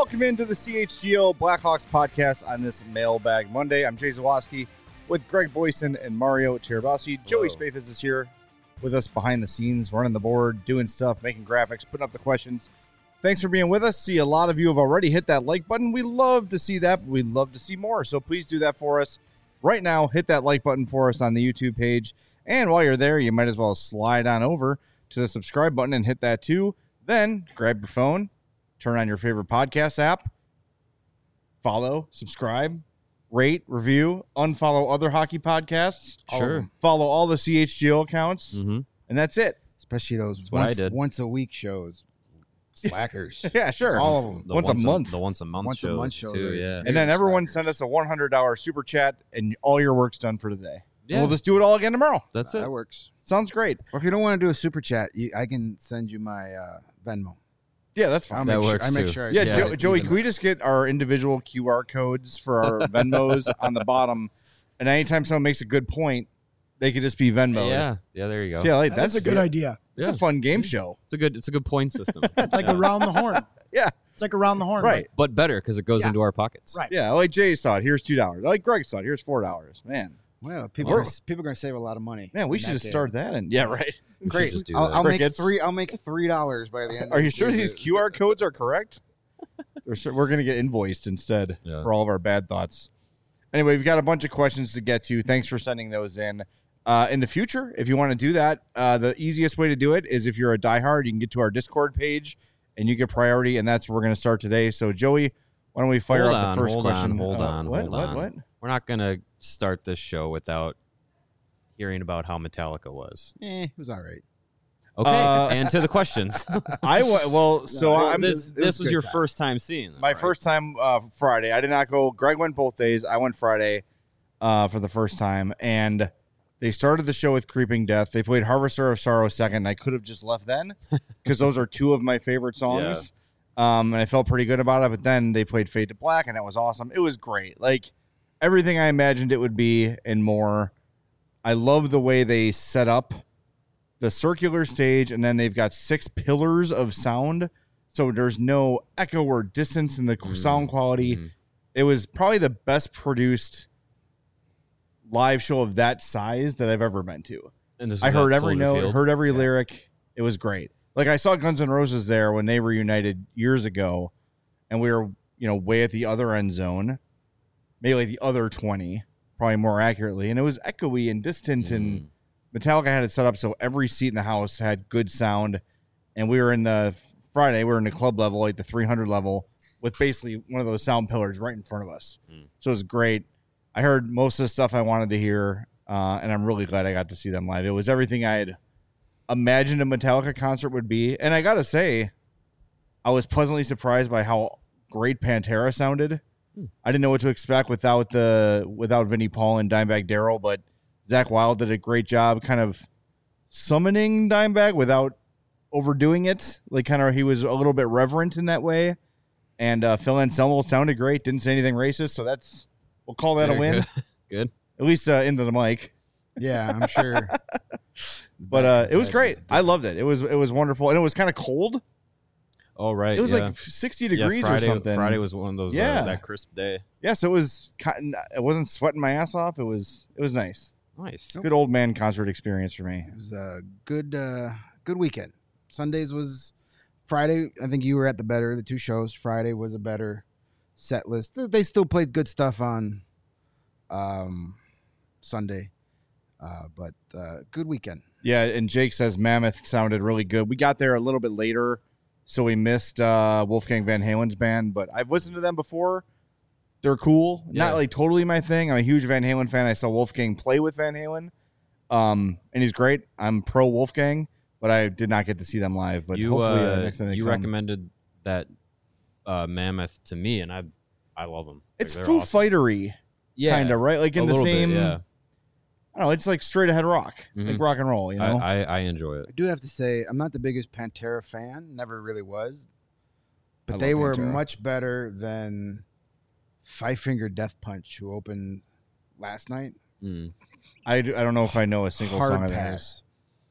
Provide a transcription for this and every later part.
Welcome into the CHGO Blackhawks podcast on this Mailbag Monday. I'm Jay Zawoski with Greg Boyson and Mario Tirabassi. Joey Spathis is here with us behind the scenes, running the board, doing stuff, making graphics, putting up the questions. Thanks for being with us. See, a lot of you have already hit that like button. We love to see that, but we'd love to see more. So please do that for us. Right now, hit that like button for us on the YouTube page. And while you're there, you might as well slide on over to the subscribe button and hit that too. Then grab your phone, turn on your favorite podcast app, follow, subscribe, rate, review, unfollow other hockey podcasts. Sure. Follow all the CHGO accounts, and that's it. Especially those once a week shows. Slackers. Yeah, sure. All of them. Once a month. The once a month shows too, yeah. And then everyone send us a $100 super chat, and all your work's done for today. Yeah. We'll just do it all again tomorrow. That's it. That works. Sounds great. Or if you don't want to do a super chat, I can send you my Venmo. Yeah, that's fine. That works I make too. sure. Joey, can we just get our individual QR codes for our Venmos on the bottom? And anytime someone makes a good point, they could just be Venmo. Yeah, there you go. So yeah, That's a good idea. It's a fun game show. It's a good point system. It's like around the horn. Yeah. It's like around the horn. Right. But better because it goes Yeah. into our pockets. Right. Yeah, I like Jay's thought. Here's $2. I like Greg's thought. Here's $4. Man, Well, people are going to save a lot of money. man, we should just start that. And yeah, right. We should Great. just do I'll that. make Crickets. $3. I'll make $3 by the end. Are of you the sure season. these QR codes are correct? We're going to get invoiced instead for all of our bad thoughts. Anyway, we've got a bunch of questions to get to. Thanks for sending those in. In the future, if you want to do that, the easiest way to do it is if you're a diehard, you can get to our Discord page and you get priority, and that's where we're going to start today. So, Joey, why don't we fire up the first question? Hold on. What? We're not going to start this show without hearing about how Metallica was. It was all right. Okay, and to the questions. This was your first time seeing them, My right? first time Friday. I did not go. Greg went both days. I went Friday for the first time, and they started the show with Creeping Death. They played Harvester of Sorrow second. I could have just left then because those are two of my favorite songs. And I felt pretty good about it. But then they played Fade to Black, and that was awesome. It was great. Like everything I imagined it would be and more. I love the way they set up the circular stage, and then they've got 6 pillars of sound. So there's no echo or distance in the sound quality. It was probably the best produced live show of that size that I've ever been to. And this was I heard at every Soldier note, Field? heard every lyric. It was great. Like I saw Guns N' Roses there when they reunited years ago, and we were, way at the other end zone, maybe like the other 20, probably more accurately. And it was echoey and distant, and Metallica had it set up so every seat in the house had good sound. And we were in the Friday, we were in the club level, like the 300 level, with basically one of those sound pillars right in front of us. So it was great. I heard most of the stuff I wanted to hear, and I'm really glad I got to see them live. It was everything I had imagined a Metallica concert would be. And I got to say, I was pleasantly surprised by how great Pantera sounded. I didn't know what to expect without Vinnie Paul and Dimebag Darrell, but Zach Wilde did a great job kind of summoning Dimebag without overdoing it. Like kind of he was a little bit reverent in that way. And Phil Anselmo sounded great, didn't say anything racist, so we'll call that a win. Good. At least into the mic. Yeah, I'm sure. But it was great. I loved it. It was wonderful, and it was kind of cold. Oh, right. It was like 60 degrees or something. Friday was one of those that crisp day. Yeah, so it was. It wasn't sweating my ass off. It was nice. Nice. Good old man concert experience for me. It was a good weekend. Sundays was Friday. I think you were at the 2 shows. Friday was a better set list. They still played good stuff on Sunday, but good weekend. Yeah, and Jake says Mammoth sounded really good. We got there a little bit later, so we missed Wolfgang Van Halen's band, but I've listened to them before. They're cool. Yeah. Not like totally my thing. I'm a huge Van Halen fan. I saw Wolfgang play with Van Halen, and he's great. I'm pro Wolfgang, but I did not get to see them live. But hopefully next time they come. Recommended that Mammoth to me, and I love them. It's They're Foo awesome. Fightery, kind of, right? Like in A the little bit, same. yeah. I don't know. It's like straight ahead rock, like rock and roll. I enjoy it. I do have to say, I'm not the biggest Pantera fan. Never really was. I But they love were Pantera. much better than Five Finger Death Punch, who opened last night. I don't know if I know a single Hard song of theirs. pass.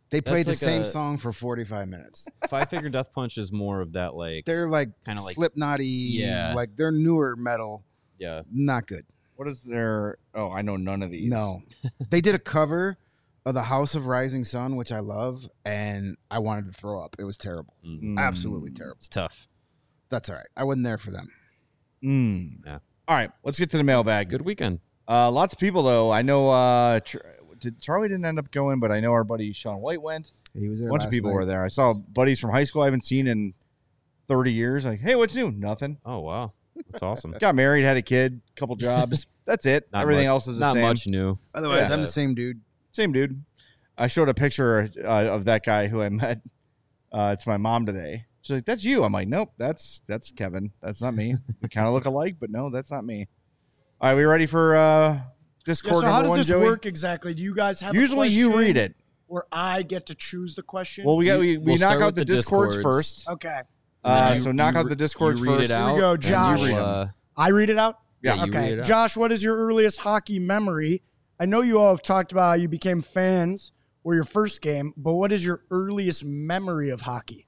They played the like same a- song for 45 minutes. Five Finger Death Punch is more of that like They're like Kinda like- Slipknot-y, Yeah. like they're newer metal. yeah. Not good. What is their? Oh, I know none of these. No. They did a cover of the House of Rising Sun, which I love, and I wanted to throw up. It was terrible. Mm. Absolutely terrible. It's tough. That's all right. I wasn't there for them. Yeah. All right, let's get to the mailbag. Good weekend. Lots of people though. I know. Charlie didn't end up going, but I know our buddy Sean White went. He was there A bunch of last people night. were there. I saw buddies from high school I haven't seen in 30 years. Like, hey, what's new? Nothing. Oh wow, that's awesome. Got married, had a kid, couple jobs. That's it. Not Everything much- else is the not same. much new. Otherwise, Yeah. I'm the same dude. Same dude. I showed a picture of that guy who I met to my mom today. She's like, "That's you." I'm like, "Nope, that's Kevin. That's not me. We kind of look alike, but no, that's not me." All right, we ready for Yeah, Discord so how number does one, this Joey? work exactly? Do you guys have Usually a you question read it. or I get to choose the question? Well, we We'll knock start out with the the Discords Discords. first. Okay. And then So you- knock you out re- the Discords you read first. it Here we out, go, and Josh. you'll, I read it out? Yeah, Yeah. you read Okay. it out. Josh, what is your earliest hockey memory? I know you all have talked about how you became fans or your first game, but what is your earliest memory of hockey?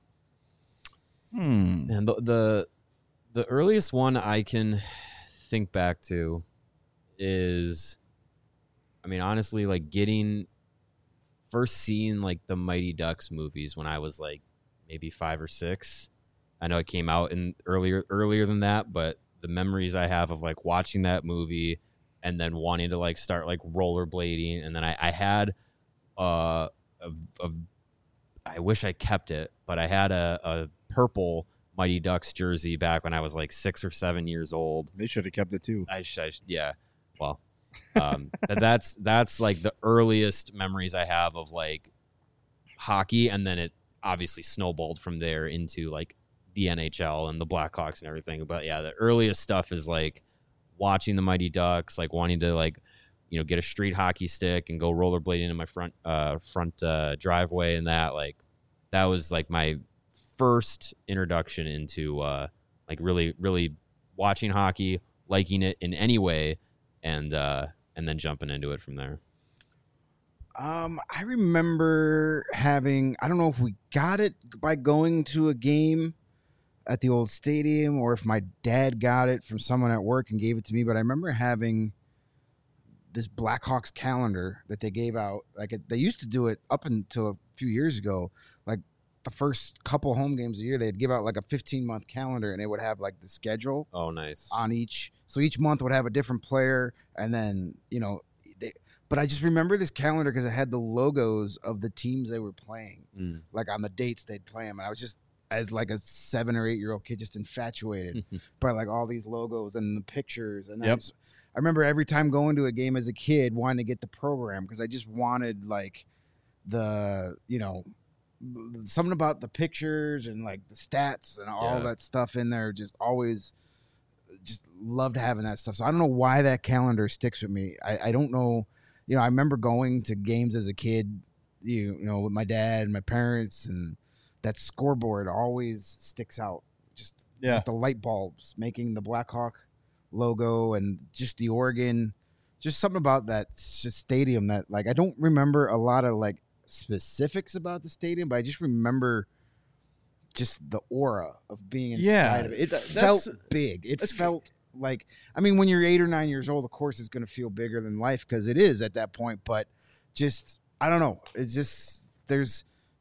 And the earliest one I can think back to is, I mean, honestly, like first seeing like the Mighty Ducks movies when I was like maybe 5 or 6. I know it came out in earlier than that, but the memories I have of like watching that movie and then wanting to like start like rollerblading, and then I had I wish I kept it, but I had a purple Mighty Ducks jersey back when I was like 6 or 7 years old. They should have kept it too. Yeah. Well, that's like the earliest memories I have of like hockey, and then it obviously snowballed from there into like the NHL and the Blackhawks and everything. But yeah, the earliest stuff is like watching the Mighty Ducks, like wanting to like, you know, get a street hockey stick and go rollerblading in my front driveway, and that was like my first introduction into like really watching hockey, liking it in any way, and then jumping into it from there. I remember having, I don't know if we got it by going to a game at the old stadium or if my dad got it from someone at work and gave it to me, but I remember having this Blackhawks calendar that they gave out. Like they used to do it up until a few years ago. Like the first couple home games a year, they'd give out like a 15-month calendar, and it would have like the schedule Oh, nice. on each. So each month would have a different player, and then but I just remember this calendar because it had the logos of the teams they were playing, like on the dates they'd play them, and I was just, as like a 7 or 8 year old kid, just infatuated by like all these logos and the pictures. And Yep. I remember every time going to a game as a kid wanting to get the program because I just wanted like the, something about the pictures and like the stats and all Yeah. that stuff in there. Just always just loved having that stuff. So I don't know why that calendar sticks with me. I don't know. I remember going to games as a kid, with my dad and my parents, and that scoreboard always sticks out. Just with the light bulbs making the Blackhawk logo and just the organ, just something about that just stadium that like I don't remember a lot of like specifics about the stadium, but I just remember just the aura of being inside of it. It felt big. It felt like, I mean, when you're 8 or 9 years old, of course it's going to feel bigger than life because it is at that point. But just, I don't know. It's just, there's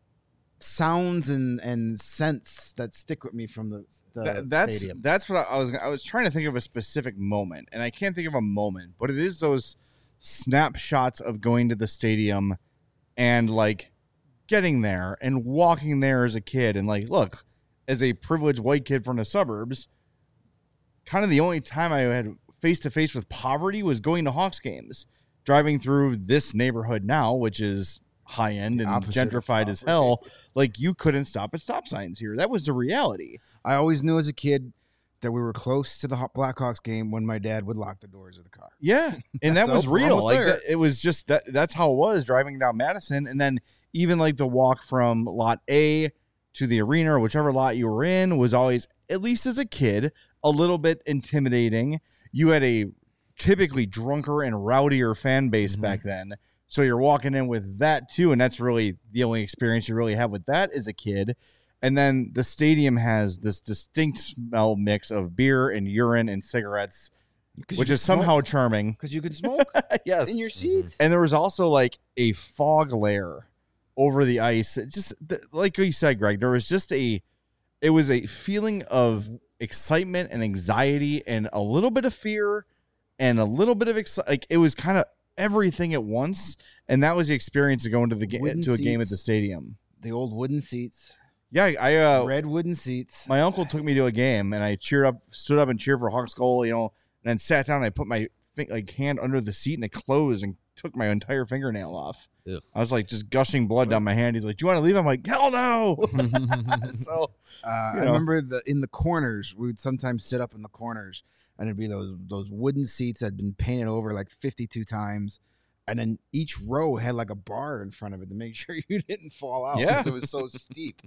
sounds and scents that stick with me from the stadium. That's what I was trying to think of a specific moment, and I can't think of a moment, but it is those snapshots of going to the stadium and like getting there and walking there as a kid, and like, look, as a privileged white kid from the suburbs, kind of the only time I had face to face with poverty was going to Hawks games, driving through this neighborhood now, which is high end and gentrified as hell. Like, you couldn't stop at stop signs here. That was the reality. I always knew as a kid that we were close to the Blackhawks game when my dad would lock the doors of the car. Yeah, and that That's was real. almost Like there. it was just that's how it was driving down Madison, and then even like the walk from lot A to the arena or whichever lot you were in was always, at least as a kid, a little bit intimidating. You had a typically drunker and rowdier fan base back then, So you're walking in with that too, and that's really the only experience you really have with that as a kid. And then the stadium has this distinct smell mix of beer and urine and cigarettes, which is somehow charming. Because you could smoke Yes. in your seats. And there was also like a fog layer over the ice. It just like you said, Greg, there was just it was a feeling of excitement and anxiety and a little bit of fear and a little bit of like it was kind of everything at once. And that was the experience of going to the game to a game at the stadium. The old wooden seats. Yeah, I red wooden seats. My uncle took me to a game and I stood up and cheered for Hawks goal, and then sat down and I put my hand under the seat and it closed and took my entire fingernail off. Ugh. I was like just gushing blood down my hand. He's like, "Do you want to leave?" I'm like, "Hell no!" So I remember in the corners, we would sometimes sit up in the corners, and it'd be those wooden seats that had been painted over like 52 times, and then each row had like a bar in front of it to make sure you didn't fall out because it was so steep.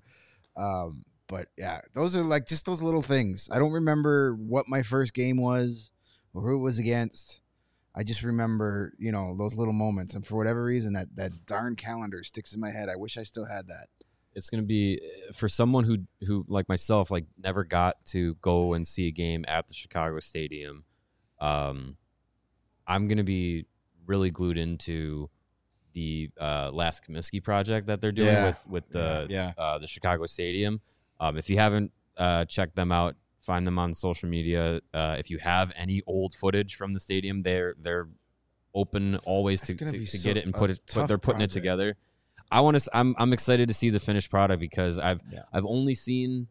But yeah, those are like just those little things. I don't remember what my first game was or who it was against. I just remember, those little moments. And for whatever reason, that darn calendar sticks in my head. I wish I still had that. It's going to be for someone who like myself, like never got to go and see a game at the Chicago Stadium. I'm going to be really glued into the Last Comiskey project that they're doing with the Chicago Stadium. If you haven't checked them out, find them on social media. If you have any old footage from the stadium, they're open always to get it and they're putting it together. I'm excited to see the finished product because I've only seen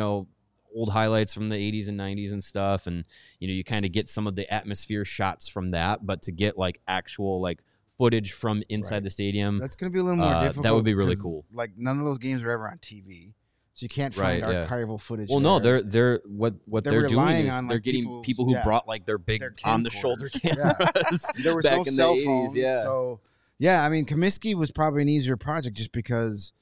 old highlights from the 80s and 90s and stuff, and you kind of get some of the atmosphere shots from that, but to get like actual like footage from inside the stadium, that's going to be a little more difficult. That would be really cool. Like none of those games were ever on TV. So you can't find archival footage. Well, no, they're what they're doing is they're getting people who brought like their big on the shoulder cameras. There was back no in cell the 80s, phones, so I mean, Comiskey was probably an easier project just because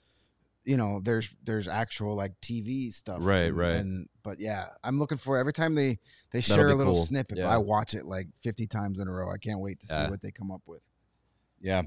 there's actual like TV stuff, right. But yeah, I'm looking for every time they share a little snippet. Yeah. I watch it like 50 times in a row. I can't wait to see what they come up with. Yeah,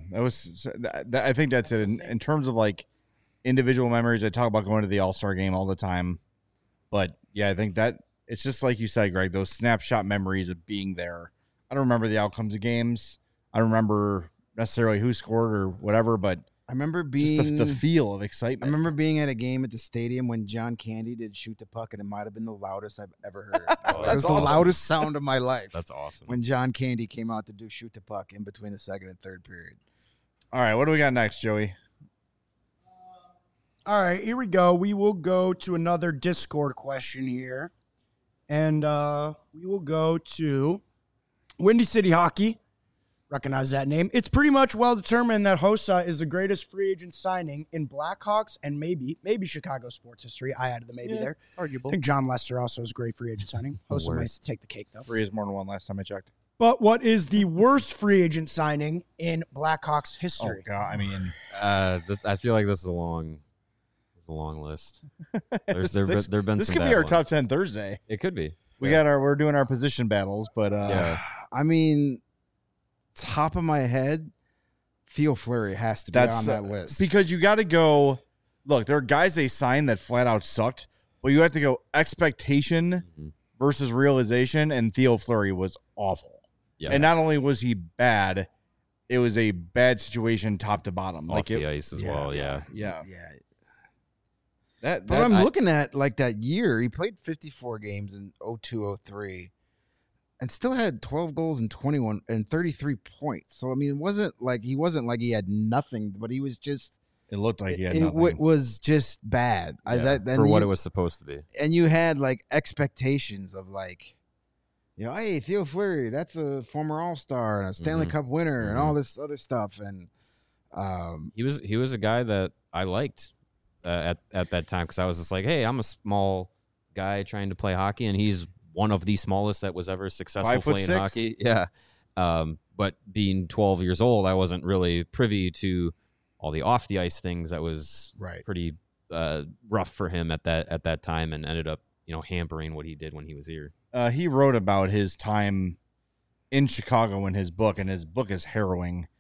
I think that's it in terms of like individual memories. I talk about going to the All-Star game all the time, but yeah, I think that it's just like you said, Greg, those snapshot memories of being there. I don't remember the outcomes of games. I don't remember necessarily who scored or whatever, but I remember being just the feel of excitement. I remember being at a game at the stadium when John Candy did Shoot the Puck, and it might have been the loudest I've ever heard. It was the loudest sound of my life. That's awesome. When John Candy came out to do Shoot the Puck in between the second and third period. All right, what do we got next, Joey? All right, here we go. We will go to another Discord question here. And we will go to Windy City Hockey. Recognize that name. It's pretty much well determined that Hossa is the greatest free agent signing in Blackhawks and maybe Chicago sports history. I added the maybe there. Arguable. I think John Lester also is a great free agent signing. Hossa might take the cake, though. 3 is more than 1 last time I checked. But what is the worst free agent signing in Blackhawks history? Oh, God. I mean, I feel like this is a long list. There've been this some could bad be our ones. top 10 Thursday. It could be. We're doing our position battles, but I mean, top of my head, Theo Fleury has to be on that list. Because you got to go, look, there are guys they signed that flat out sucked, but you have to go expectation versus realization, and Theo Fleury was awful. Yeah. And not only was he bad, it was a bad situation top to bottom. Off the ice as well, yeah. But I'm looking at like that year, he played 54 games in 02-03 and still had 12 goals and 21 and 33 points. So I mean, he wasn't like he had nothing, but he was just it looked like he had nothing. It was just bad. For what it was supposed to be. And you had like expectations of like, hey, Theo Fleury, that's a former All-Star and a Stanley Cup winner and all this other stuff. And he was a guy that I liked at that time because I was just like, hey, I'm a small guy trying to play hockey, and he's one of the smallest that was ever successful playing 5'6". hockey. Yeah. But being 12 years old, I wasn't really privy to all the off the ice things that was pretty rough for him at that time, and ended up hampering what he did when he was here. He wrote about his time in Chicago in his book, and his book is harrowing.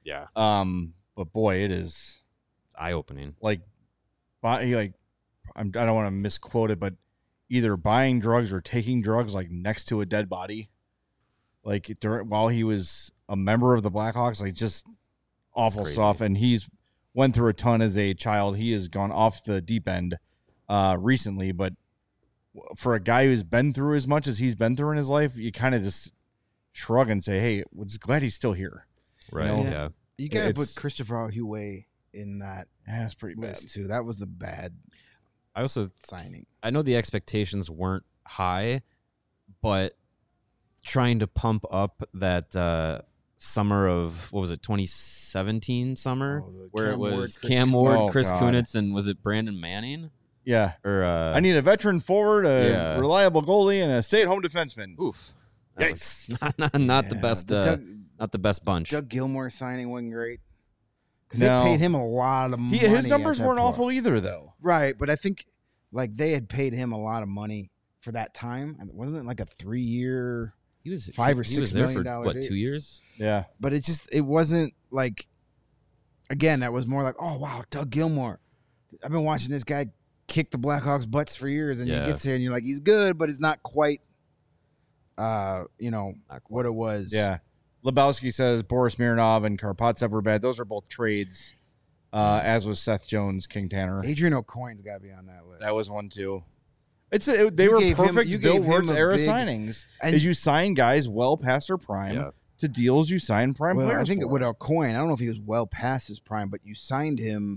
Yeah. But boy, it is It's eye-opening. like, I don't want to misquote it, but either buying drugs or taking drugs like next to a dead body, like while he was a member of the Blackhawks, like just awful crazy. stuff. And he's went through a ton as a child. He has gone off the deep end recently, but for a guy who's been through as much as he's been through in his life, you kind of just shrug and say, "Hey, we're just glad he's still here." Right. know? Yeah. You gotta put It's- Christopher Huey in that Yeah, that's pretty bad. list too. That was a bad I also signing. I know the expectations weren't high, but trying to pump up that summer of, what was it, 2017 summer, Oh, the where Cam it Ward, was Chris Cam Kunitz. Ward, Oh, Chris God. Kunitz, and was it Brandon Manning? Yeah, Or I need a veteran forward, a Yeah. reliable goalie, and a stay-at-home defenseman. oof. That was Yikes. not the Yeah, best. Not the best bunch. Doug Gilmour signing wasn't great because No. they paid him a lot of money. His at numbers that weren't point. awful either, though. Right? But I think like they had paid him a lot of money for that time. And wasn't it like a 3-year? He was $5 or he was $6 there million for what, deal. 2 years? Yeah, But it wasn't like. Again, that was more like, oh wow, Doug Gilmour. I've been watching this guy kick the Blackhawks' butts for years, and Yeah. he gets here, and you're like, he's good, but it's not quite. Not quite. What it was. yeah. Lebowski says Boris Mironov and Karpatsev were bad. Those are both trades, as was Seth Jones, King Tanner. Adrian O'Coin's got to be on that list. That was one too. They You were gave him- perfect you Bill gave him Wirtz a era big- signings. and- Is you sign guys well past their prime Yeah. to deals you sign prime Well, players. I think for. with O'Coin, I don't know if he was well past his prime, but you signed him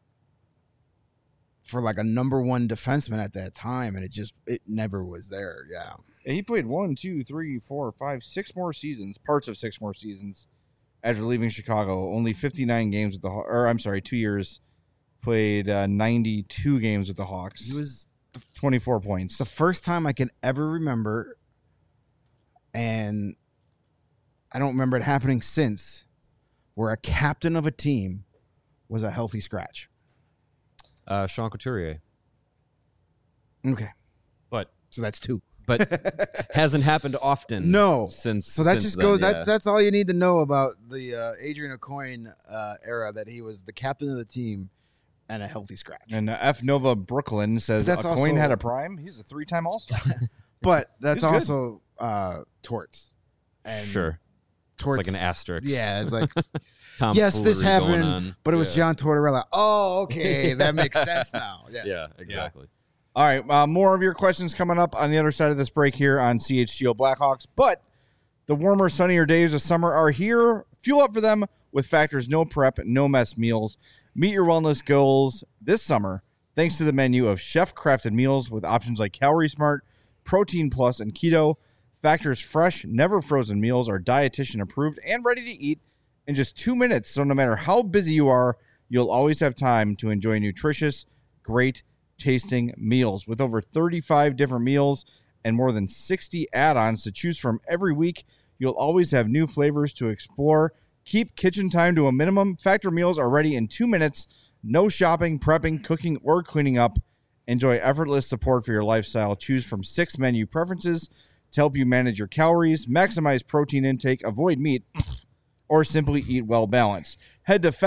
for like a number one defenseman at that time, and it never was there. Yeah. And he played 1, 2, 3, 4, 5, 6 more seasons, parts of 6 more seasons after leaving Chicago. Only 59 games with the Hawks. Or I'm sorry, 2 years. Played 92 games with the Hawks. He was 24 points. the first time I can ever remember, and I don't remember it happening since, where a captain of a team was a healthy scratch. Sean Couturier. Okay. But So that's 2. hasn't happened often. No. Since So that since just then, goes. yeah. That's all you need to know about the Adrian O'Coin era. That he was the captain of the team and a healthy scratch. And F Nova Brooklyn says That's Coin also- had a prime. He's a 3-time All-Star. But that's He's good. also Torts. And Sure. Torts, It's like an asterisk. Yeah, it's like Tom yes, this Foolery going happened, on. but it was Yeah. John Tortorella. Oh, okay, that makes sense now. Yes. Yeah, exactly. All right, more of your questions coming up on the other side of this break here on CHGO Blackhawks. But the warmer, sunnier days of summer are here. Fuel up for them with Factor's no prep, no mess meals. Meet your wellness goals this summer thanks to the menu of chef-crafted meals with options like Calorie Smart, Protein Plus, and Keto. Factor's fresh, never frozen meals are dietitian approved and ready to eat in just 2 minutes. So no matter how busy you are, you'll always have time to enjoy nutritious, great tasting meals. With over 35 different meals and more than 60 add-ons to choose from every week, you'll always have new flavors to explore. Keep kitchen time to a minimum. Factor meals are ready in 2 minutes. No shopping, prepping, cooking, or cleaning up. Enjoy effortless support for your lifestyle. Choose from 6 menu preferences to help you manage your calories, maximize protein intake, avoid meat, or simply eat well balanced. Head to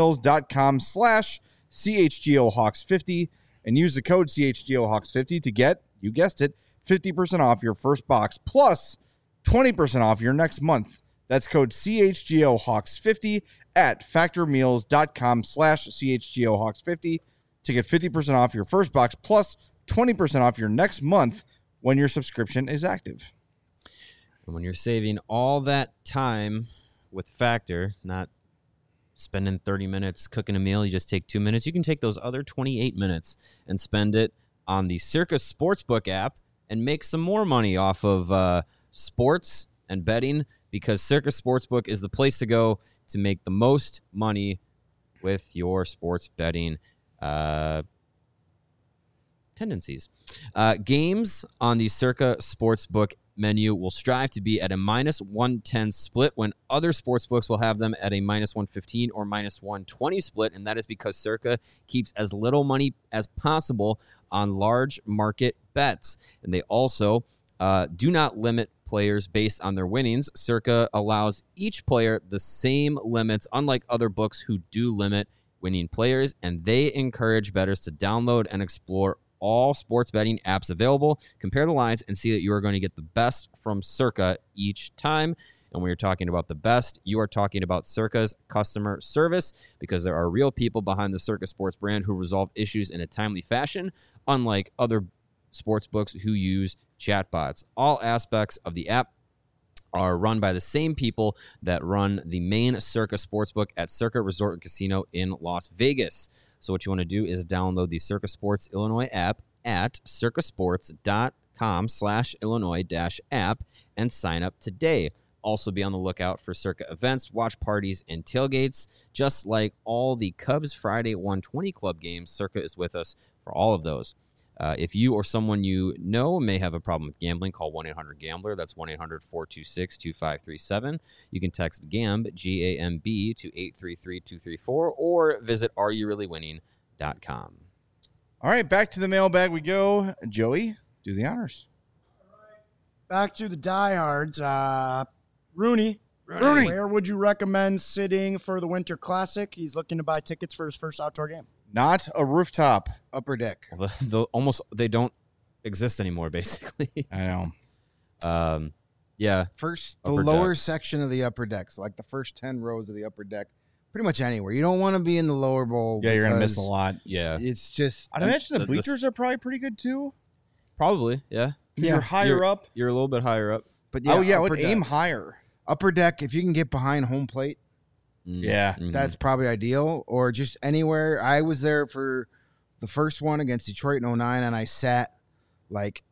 factormeals.com/CHGOHawks50 and use the code CHGOHawks50 to get, you guessed it, 50% off your first box plus 20% off your next month. That's code CHGOHawks50 at factormeals.com/CHGOHawks50 to get 50% off your first box plus 20% off your next month when your subscription is active. And when you're saving all that time with Factor, not spending 30 minutes cooking a meal, you just take 2 minutes. You can take those other 28 minutes and spend it on the Circa Sportsbook app and make some more money off of sports and betting, because Circa Sportsbook is the place to go to make the most money with your sports betting tendencies. Games on the Circa Sportsbook menu will strive to be at a -110 split when other sportsbooks will have them at a -115 or -120 split, and that is because Circa keeps as little money as possible on large market bets. And they also do not limit players based on their winnings. Circa allows each player the same limits, unlike other books who do limit winning players, and they encourage bettors to download and explore all sports betting apps available, compare the lines, and see that you are going to get the best from Circa each time. And when you're talking about the best, you are talking about Circa's customer service, because there are real people behind the Circa Sports brand who resolve issues in a timely fashion, unlike other sports books who use chatbots. All aspects of the app are run by the same people that run the main Circa Sportsbook at Circa Resort and Casino in Las Vegas. So what you want to do is download the Circa Sports Illinois app at circasports.com/Illinois-app and sign up today. Also be on the lookout for Circa events, watch parties, and tailgates. Just like all the Cubs Friday 120 Club games, Circa is with us for all of those. If you or someone you know may have a problem with gambling, call 1-800-GAMBLER. That's 1-800-426-2537. You can text GAMB, G-A-M-B, to 833-234, or visit areyourreallywinning.com. All right, back to the mailbag we go. Joey, do the honors. Back to the diehards. Rooney, where would you recommend sitting for the Winter Classic? He's looking to buy tickets for his first outdoor game. Not a rooftop. Upper deck. They don't exist anymore, basically. I know. Yeah. First, the Upper lower decks. section of the upper decks, like the first 10 rows of the upper deck, pretty much anywhere. You don't want to be in the lower bowl. Yeah, you're going to miss a because lot. Yeah. It's just, I'd imagine the the- bleachers are probably pretty good too. Probably, yeah. Because Yeah, you're higher up. You're a little bit higher up. but I upper would deck. aim higher. Upper deck, if you can get behind home plate, Yeah. Mhm. that's probably ideal, or just anywhere. I was there for the first one against Detroit in 09, and I sat like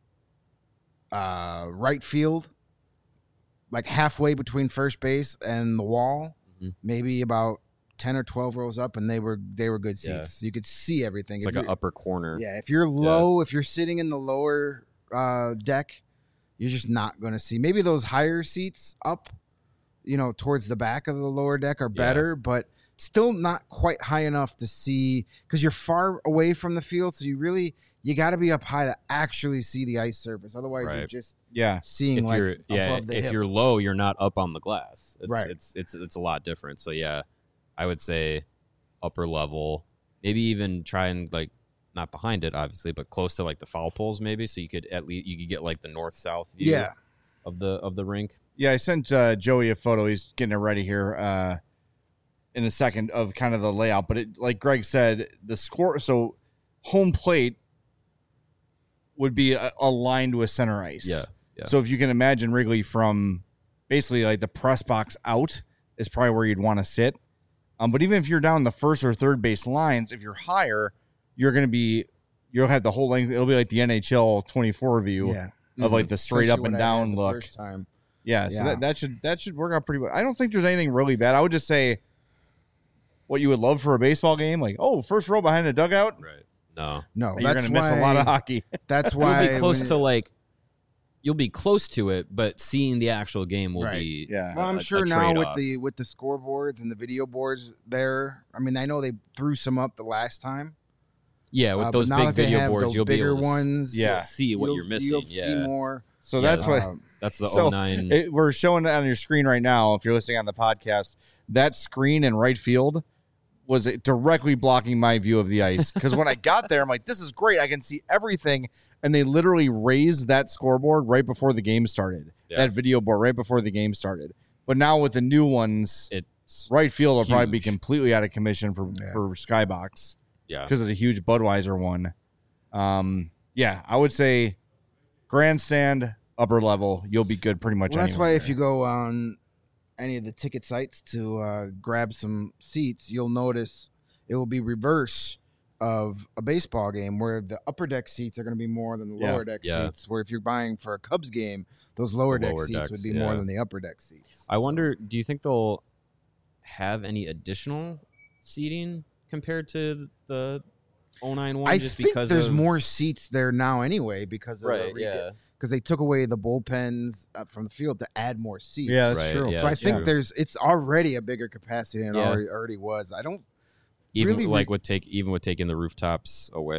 right field, like halfway between first base and the wall, Mhm. maybe about 10 or 12 rows up, and they were good Yeah. seats. You could see everything. It's If like an you're- upper corner. Yeah, if you're low, if you're sitting in the lower deck, you're just not going to see. Maybe those higher seats up, towards the back of the lower deck are better, but still not quite high enough to see, because you're far away from the field. So you got to be up high to actually see the ice surface. Otherwise, you're Right. just Yeah. seeing If like you're above the if hip. you're low, you're not up on the glass. It's, Right. It's a lot different. So yeah, I would say upper level, maybe even try and like not behind it, obviously, but close to like the foul poles, maybe, so you could get like the north south view Yeah. of the rink. Yeah, I sent Joey a photo. He's getting it ready here in a second of kind of the layout. But it, like Greg said, the score. So home plate would be aligned with center ice. Yeah. So if you can imagine Wrigley from basically like the press box out is probably where you'd want to sit. But even if you're down the first or third base lines, if you're higher, you'll have the whole length. It'll be like the NHL 24 view. Yeah. Of, like, the straight Essentially up and what I had down the look. First time. Yeah, so Yeah. that should work out pretty well. I don't think there's anything really bad. I would just say what you would love for a baseball game, like, first row behind the dugout. Right. No. No, You're that's gonna miss a lot of hockey. That's why You'll be close when- to like. You'll be close to it, but seeing the actual game will Right. be. Yeah. Well, I'm a sure now with trade-off. the scoreboards and the video boards there. I mean, I know they threw some up the last time. Yeah, with but those now big that they video have boards, those you'll be bigger able to ones. Yeah. see what you're missing. You'll Yeah, see more. So Yeah, that's what that's the So, 09. we're showing on your screen right now. If you're listening on the podcast, that screen in right field was directly blocking my view of the ice. Because when I got there, I'm like, this is great. I can see everything. And they literally raised that scoreboard right before the game started. Yeah. That video board right before the game started. But now with the new ones, It's right field will probably be huge. completely out of commission for Skybox yeah. because of the huge Budweiser one. Yeah, I would say grandstand, upper level, you'll be good pretty much. Well, that's why anywhere. if you go on any of the ticket sites to grab some seats, you'll notice it will be reverse of a baseball game where the upper deck seats are going to be more than the Yeah. lower deck Yeah. seats. Where if you're buying for a Cubs game, those lower The deck lower seats decks, would be more yeah. than the upper deck seats. I So- wonder, do you think they'll have any additional seating compared to the 09 one? I just think because there's of, more seats there now anyway because of Right. the Yeah. because they took away the bullpens from the field to add more seats. Yeah, that's Right, true. yeah. So I that's think true. it's already a bigger capacity than it Yeah. already was. I don't Even really like taking the rooftops away.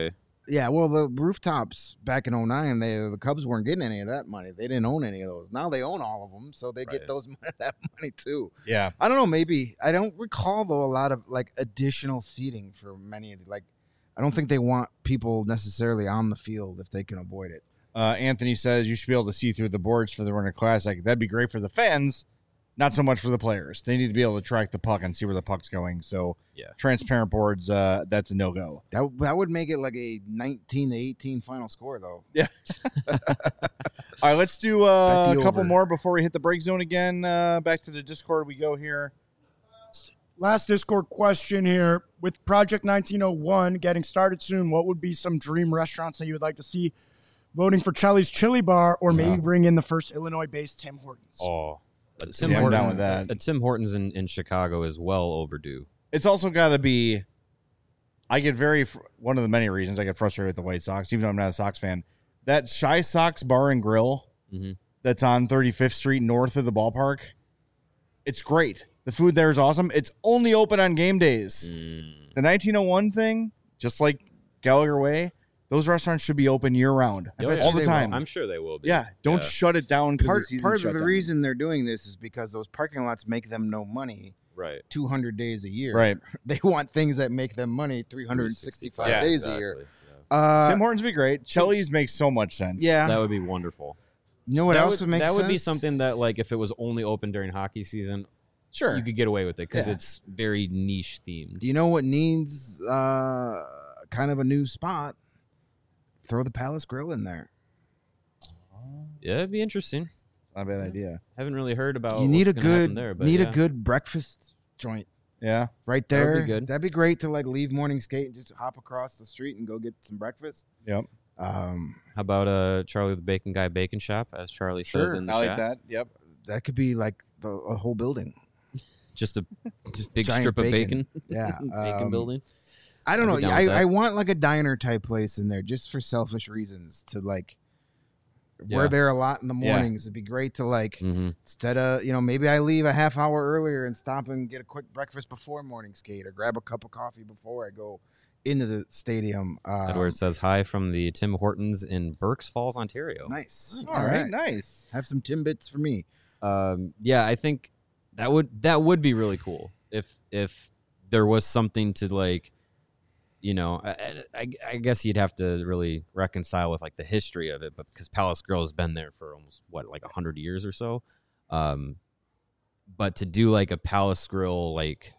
Yeah, well, the rooftops back in 09, the Cubs weren't getting any of that money. They didn't own any of those. Now they own all of them, so they get that money too. Yeah. I don't know. Maybe I don't recall though a lot of like additional seating for many of the, like. I don't think they want people necessarily on the field if they can avoid it. Anthony says you should be able to see through the boards for the Winter Classic. That'd be great for the fans, not so much for the players. They need to be able to track the puck and see where the puck's going. So transparent boards, that's a no-go. That would make it like a 19-18 final score, though. Yeah. All right, let's do a couple more before we hit the break zone again. Back to the Discord we go here. Last Discord question here. With Project 1901 getting started soon, what would be some dream restaurants that you would like to see voting for Charlie's Chili Bar, or maybe bring in the first Illinois-based Tim Hortons? Oh, I'm down with that. A Tim Hortons in Chicago is well overdue. It's also got to be, one of the many reasons I get frustrated with the White Sox, even though I'm not a Sox fan, that Shy Sox Bar and Grill that's on 35th Street north of the ballpark, it's great. The food there is awesome. It's only open on game days. The 1901 thing, just like Gallagher Way, those restaurants should be open year-round, all the time. I'm sure they will be. Yeah, don't shut it down. Part of the reason they're doing this is because those parking lots make them no money. Right. 200 days a year. Right. They want things that make them money 365 days a year. Tim Hortons would be great. Chili's makes so much sense. Yeah. That would be wonderful. You know what else would make sense? That would be something that, like, if it was only open during hockey season, sure, you could get away with it because it's very niche themed. Do you know what needs kind of a new spot? Throw the Palace Grill in there. Yeah, it'd be interesting. It's not a bad idea. Haven't really heard about. You need what's gonna happen there, but a good breakfast joint. Yeah, right there. That would be good. That'd be great to like leave morning skate and just hop across the street and go get some breakfast. Yep. How about Charlie the Bacon Guy Bacon Shop, as Charlie says in the chat? I like that. Yep. That could be like a whole building. Just big strip of bacon. Yeah. Bacon building. I don't know. I want like a diner type place in there just for selfish reasons to like where there are a lot in the mornings. It'd be great to like instead of, maybe I leave a half hour earlier and stop and get a quick breakfast before morning skate or grab a cup of coffee before I go into the stadium. Edward says hi from the Tim Hortons in Berks Falls, Ontario. Nice. All right. Nice. Have some Timbits for me. Yeah, I think that would be really cool if there was something to like, I guess you'd have to really reconcile with like the history of it, but because Palace Grill has been there for almost 100 years or so. But to do like a Palace Grill, like,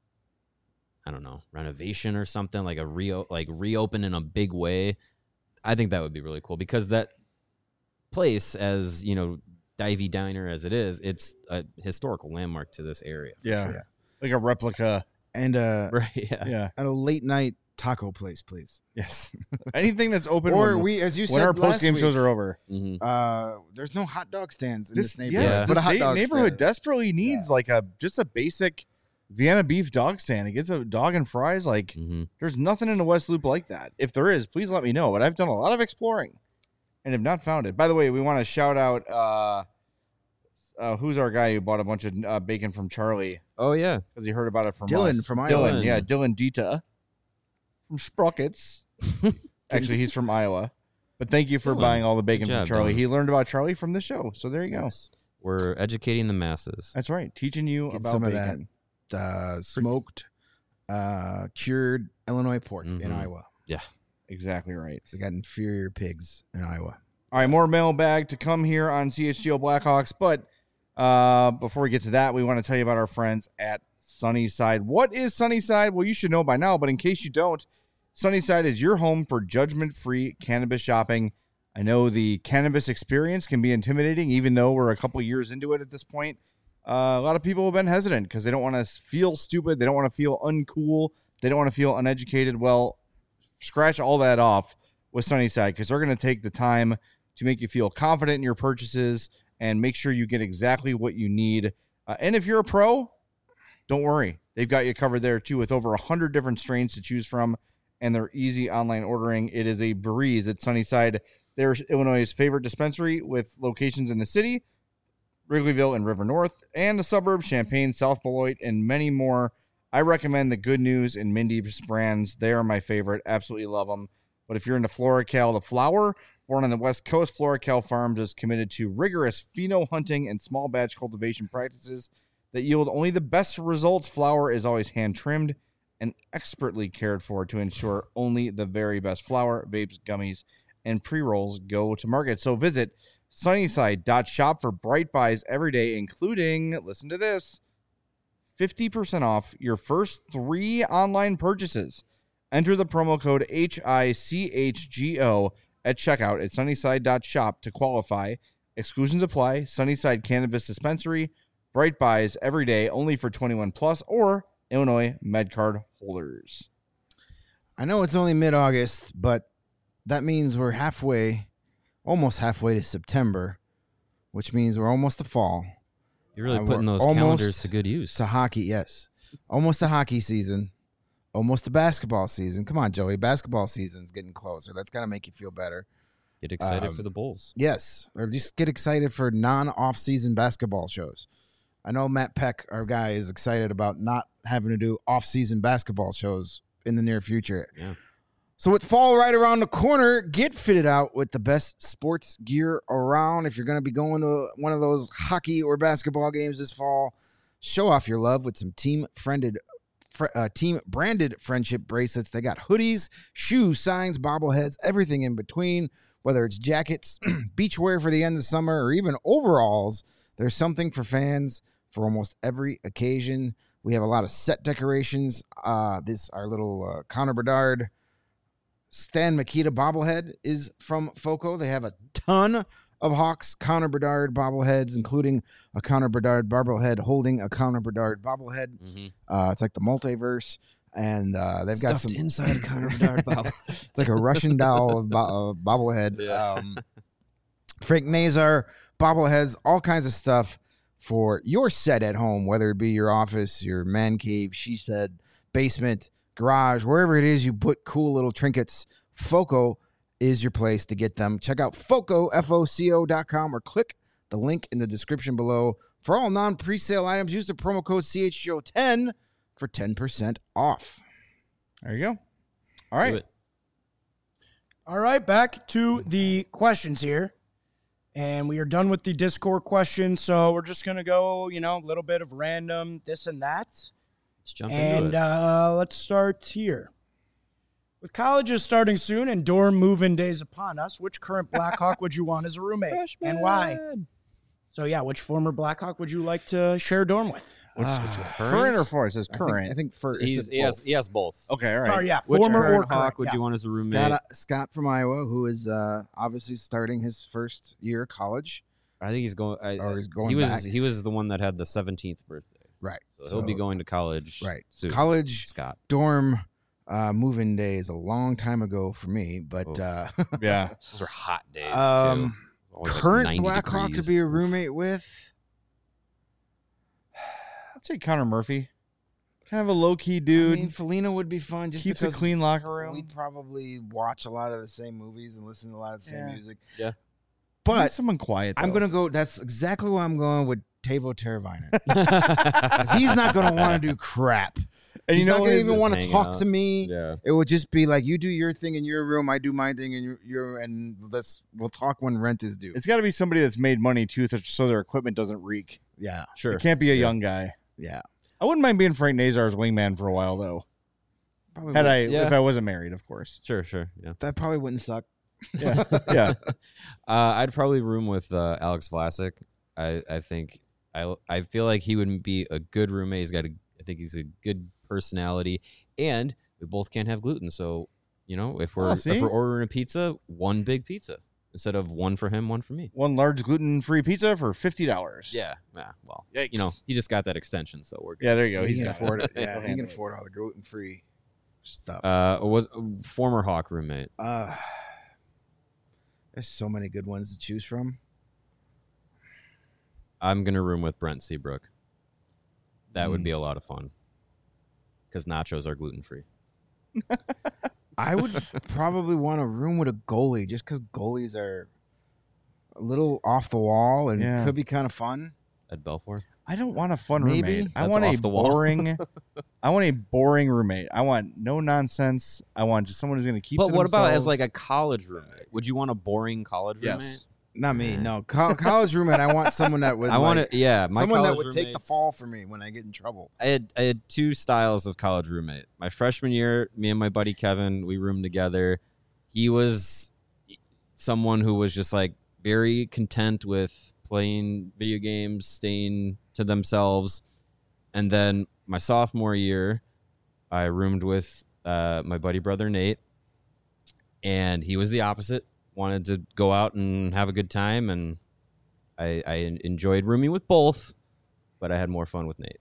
I don't know, renovation or something, like reopen in a big way, I think that would be really cool because that place, as divey diner as it is, it's a historical landmark to this area. Yeah. Like a replica. And right, and a late night taco place, please. Yes. Anything that's open. Or as you said, when our post game shows are over. There's no hot dog stands in this neighborhood. Yes, but a hot dog neighborhood stand. desperately needs like just a basic Vienna beef dog stand. It gets a dog and fries. Like there's nothing in the West Loop like that. If there is, please let me know. But I've done a lot of exploring and have not found it. By the way, we want to shout out who's our guy who bought a bunch of bacon from Charlie. Oh yeah, because he heard about it from Dylan us. from Iowa. Dylan Dita from Sprockets. Actually, he's from Iowa. But thank you for buying all the bacon from Charlie. He learned about Charlie from the show. So there you go. We're educating the masses. That's right. Teaching you about some bacon. Of that smoked, cured Illinois pork in Iowa. Yeah, exactly right. So they got inferior pigs in Iowa. All right, more mailbag to come here on CHGO Blackhawks. But before we get to that, we want to tell you about our friends at Sunnyside. What is Sunnyside? Well, you should know by now, but in case you don't, Sunnyside is your home for judgment-free cannabis shopping. I know the cannabis experience can be intimidating, even though we're a couple years into it at this point. A lot of people have been hesitant because they don't want to feel stupid. They don't want to feel uncool. They don't want to feel uneducated. Well, scratch all that off with Sunnyside because they're going to take the time to make you feel confident in your purchases and make sure you get exactly what you need. And if you're a pro, don't worry. They've got you covered there, too, with over 100 different strains to choose from and their easy online ordering. It is a breeze at Sunnyside. They're Illinois' favorite dispensary with locations in the city, Wrigleyville and River North, and the suburbs, Champaign, South Beloit, and many more. I recommend the Good News and Mindy's brands. They are my favorite. Absolutely love them. But if you're into FloraCal, the flower, born on the West Coast, FloraCal Farms is committed to rigorous pheno hunting and small batch cultivation practices that yield only the best results. Flower is always hand trimmed and expertly cared for to ensure only the very best flower, vapes, gummies, and pre-rolls go to market. So visit Sunnyside.shop for bright buys every day, including, listen to this, 50% off your first 3 online purchases. Enter the promo code HICHGO at checkout at Sunnyside.shop to qualify. Exclusions apply. Sunnyside Cannabis Dispensary. Bright buys every day, only for 21 plus or Illinois MedCard holders. I know it's only mid-August, but that means we're almost halfway to September, which means we're almost to fall. You're really we're putting those almost calendars to good use. To hockey, yes. Almost to hockey season. Almost to basketball season. Come on, Joey. Basketball season's getting closer. That's got to make you feel better. Get excited for the Bulls. Yes. Or just get excited for non-off-season basketball shows. I know Matt Peck, our guy, is excited about not having to do off-season basketball shows in the near future. Yeah. So with fall right around the corner, get fitted out with the best sports gear around. If you're going to be going to one of those hockey or basketball games this fall, show off your love with some team-branded friendship bracelets. They got hoodies, shoes, signs, bobbleheads, everything in between. Whether it's jackets, beachwear for the end of summer, or even overalls, there's something for fans for almost every occasion. We have a lot of set decorations. Our little Connor Bedard Stan Mikita bobblehead is from FOCO. They have a ton of Hawks Connor Bedard bobbleheads, including a Connor Bedard bobblehead holding a Connor Bedard bobblehead. Mm-hmm. It's like the multiverse, and they've got some inside a Connor Bedard bobblehead. It's like a Russian doll bobblehead. Yeah. Frank Nazar bobbleheads, all kinds of stuff for your set at home, whether it be your office, your man cave, she said, basement, garage, wherever it is you put cool little trinkets. FOCO is your place to get them. Check out FOCO, FOCO.com, or click the link in the description below. For all non-presale items, use the promo code CHGO10 for 10% off. There you go. All right. All right, back to the questions here. And we are done with the Discord questions, so we're just going to go, a little bit of random this and that. Let's jump into it. Let's start here. With colleges starting soon and dorm move-in days upon us, which current Blackhawk would you want as a roommate? Freshman. And why? So, which former Blackhawk would you like to share a dorm with? Current or former? It says current. I think for He has both. Okay, all right. Sorry, Which former current or current. Hawk would you want as a roommate? Scott from Iowa, who is obviously starting his first year of college. I think he's going. He's going He was. back. He was the one that had the 17th birthday. Right. So he'll be going to college. Right. Soon. College Scott. dorm move-in day is a long time ago for me, but Yeah. Those are hot days too. Always like current 90 Blackhawk degrees. to be a roommate with. I'd say Connor Murphy. Kind of a low-key dude. I mean, Felina would be fun. Just Keeps a because clean locker room. We'd probably watch a lot of the same movies and listen to a lot of the same music. Yeah. I need But someone quiet. I'm though. going to go. That's exactly why I'm going with Tavo Teravainen. He's not going to want to do crap. And He's you know not what? going to It's even just want to hang talk out. to me. Yeah. It would just be like, you do your thing in your room, I do my thing in your and we'll talk when rent is due. It's got to be somebody that's made money too, so their equipment doesn't reek. Yeah. Sure. It can't be a young guy. Yeah. I wouldn't mind being Frank Nazar's wingman for a while though. Probably Had would- if I wasn't married, of course. Sure. Yeah. that probably wouldn't suck. Yeah. Yeah. I'd probably room with Alex Vlasic. I think I feel like he would be a good roommate. I think he's a good personality, and we both can't have gluten. So if we're ordering a pizza, one big pizza instead of one for him, one for me. One large gluten-free pizza for $50. Yeah. Well, Yikes. he just got that extension, so we're good. Yeah, there you go. He He's can got afford it. He'll Yeah, he handle can it. afford all the gluten-free stuff. Was former Hawk roommate. There's so many good ones to choose from. I'm gonna room with Brent Seabrook. That would be a lot of fun because nachos are gluten free. I would probably want a room with a goalie just because goalies are a little off the wall and Yeah. could be kind of fun. at Belfour? I don't want a fun Maybe. roommate. I That's want off a the wall. boring. I want a boring roommate. I want no nonsense. I want just someone who's going to keep. But to what about as themselves. like a college roommate? Would you want a boring college roommate? Yes. Not me. No, college roommate. I want someone that would. I want to. Yeah, my someone that college would take the roommates- fall for me when I get in trouble. I had two styles of college roommate. My freshman year, me and my buddy Kevin, we roomed together. He was someone who was just like very content with playing video games, staying to themselves. And then my sophomore year, I roomed with my buddy brother Nate, and he was the opposite. Wanted to go out and have a good time, and I enjoyed rooming with both, but I had more fun with Nate.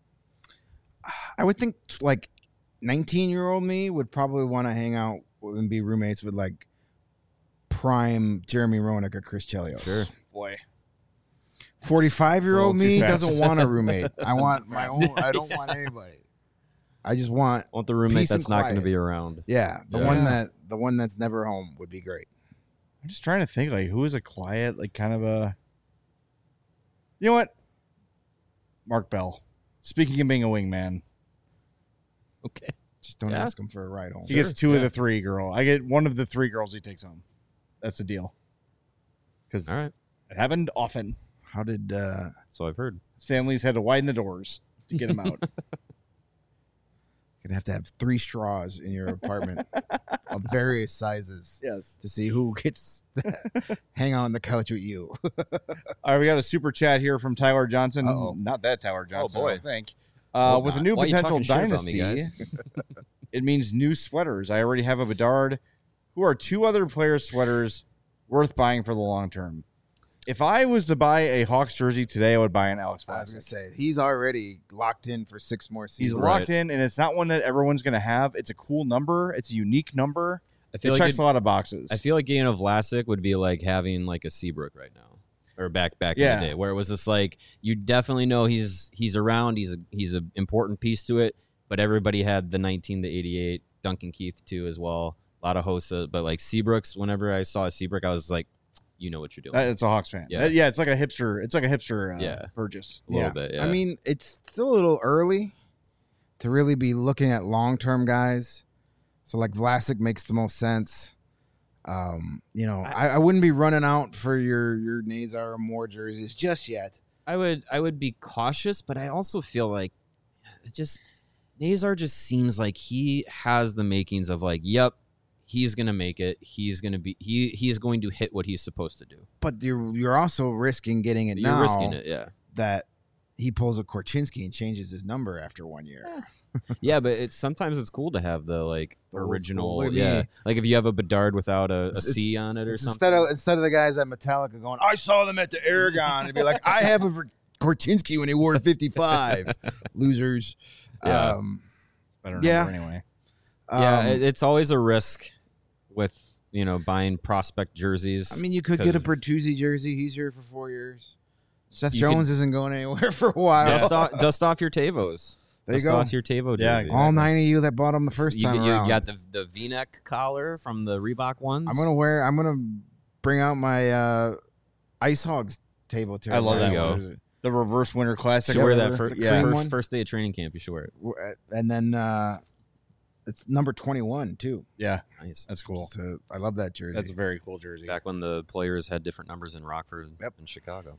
I would think like 19-year-old me would probably want to hang out and be roommates with like prime Jeremy Roenick or Chris Chelios. Sure. boy. 45-year-old It's a little me too fast. doesn't want a roommate. I want my own. I don't want anybody. I just want I want the roommate Peace and that's not going to quiet. be around. the Yeah. one that's never home would be great. I'm just trying to think like who is a quiet, like kind of a. You know what? Mark Bell. Speaking of being a wingman, Okay. Just don't Yeah. ask him for a ride home. he gets two of the three girl. I get one of the three girls he takes home. That's the deal. Because All right. it happened often. How did So I've heard. Stanley's had to widen the doors to get him out. you'd have to have 3 straws in your apartment of various sizes Yes. to see who gets to hang on the couch with you. All right, we got a super chat here from Tyler Johnson. Uh-oh. Not that Tyler Johnson, boy. I don't think. Hope With a not. new Why are you potential talking shit about me, dynasty, guys? it means new sweaters. I already have a Bedard. Who are 2 other players' sweaters worth buying for the long term? If I was to buy a Hawks jersey today, I would buy an Alex I was gonna Vlasic. say he's already locked in for 6 more He's seasons. locked in, and it's not one that everyone's going to have. It's a cool number. It's a unique number. I It feel like checks a lot of boxes. I feel like getting a Vlasic would be like having like a Seabrook right now, or back Yeah. in the day, where it was just like you definitely know he's around. He's an important piece to it, but everybody had the 19 to 88 Duncan Keith too as well. A lot of Hossa, but like Seabrooks. Whenever I saw a Seabrook, I was like, you know what you're doing. It's a Hawks fan. Yeah. Yeah, it's like a hipster. It's like a hipster Yeah. purchase. a little bit. Yeah. I mean, it's still a little early to really be looking at long-term guys. So like Vlasic makes the most sense. I wouldn't be running out for your Nazar or Moore jerseys just yet. I would be cautious, but I also feel like it just Nazar just seems like he has the makings of like, yep, he's gonna make it. He's gonna be he is going to hit what he's supposed to do. But you're also risking getting it You're now risking it, yeah. that he pulls a Korchinski and changes his number after 1 year. Yeah, but sometimes it's cool to have the like The old original, school, yeah. maybe. Like if you have a Bedard without a It's- C on it or It's something. instead of the guys at Metallica going, I saw them at the Aragon, and be like, I have a Korchinski when he wore 55. Losers. Yeah. Better Yeah. number anyway. Yeah, it's always a risk with buying prospect jerseys. I mean, you could get a 'cause Bertuzzi jersey. He's here for 4 years. Seth You Jones isn't going anywhere for a while. dust off your Tavos. There you Dust go. off your Tavo Yeah, jerseys. All 9 of you that bought them the first you, time you around. got the V-neck collar from the Reebok ones. I'm gonna bring out my Ice Hogs Tavo. I love that There you jersey. The reverse winter You classic. should wear that whatever. for, Yeah. cream one. first day of training camp. You should wear it. And then it's number 21 too. Yeah, Nice. that's cool. So I love that jersey. That's a very cool jersey. Back when the players had different numbers in Rockford Yep. and Chicago.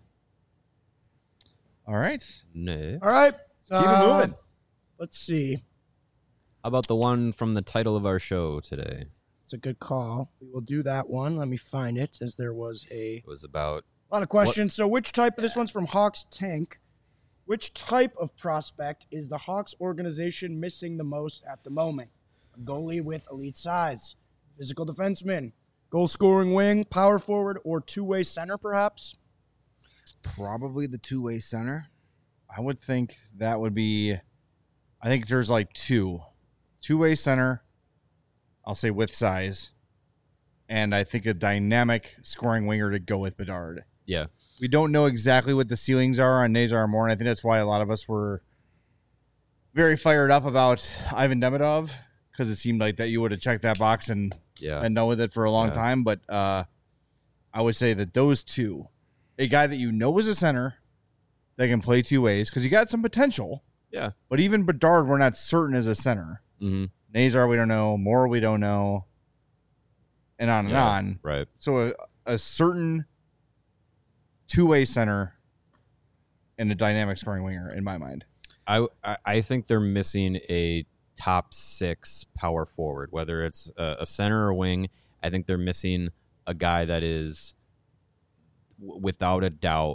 All right. No. All right. Keep it moving. Let's see. How about the one from the title of our show today? It's a good call. We will do that one. Let me find it, as there was a It was about lot of questions. So which type of this one's from Hawks Tank? Which type of prospect is the Hawks organization missing the most at the moment? A goalie with elite size, physical defenseman, goal scoring wing, power forward, or two-way center perhaps? probably the two-way center. I would think that would be. I think there's like two-way center. I'll say with size, and I think a dynamic scoring winger to go with Bedard. yeah. We don't know exactly what the ceilings are on Nazar Moore, and I think that's why a lot of us were very fired up about Ivan Demidov, because it seemed like that you would have checked that box and Yeah. know with it for a long Yeah. time. But I would say that those two, a guy that you know is a center, that can play two ways because you got some potential. Yeah. But even Bedard, we're not certain as a center. Mm-hmm. Nazar, we don't know. Moore, we don't know. And on and on. Right. So a certain two-way center and a dynamic scoring winger, in my mind. I think they're missing a top 6 power forward, whether it's a center or wing. I think they're missing a guy that is, without a doubt,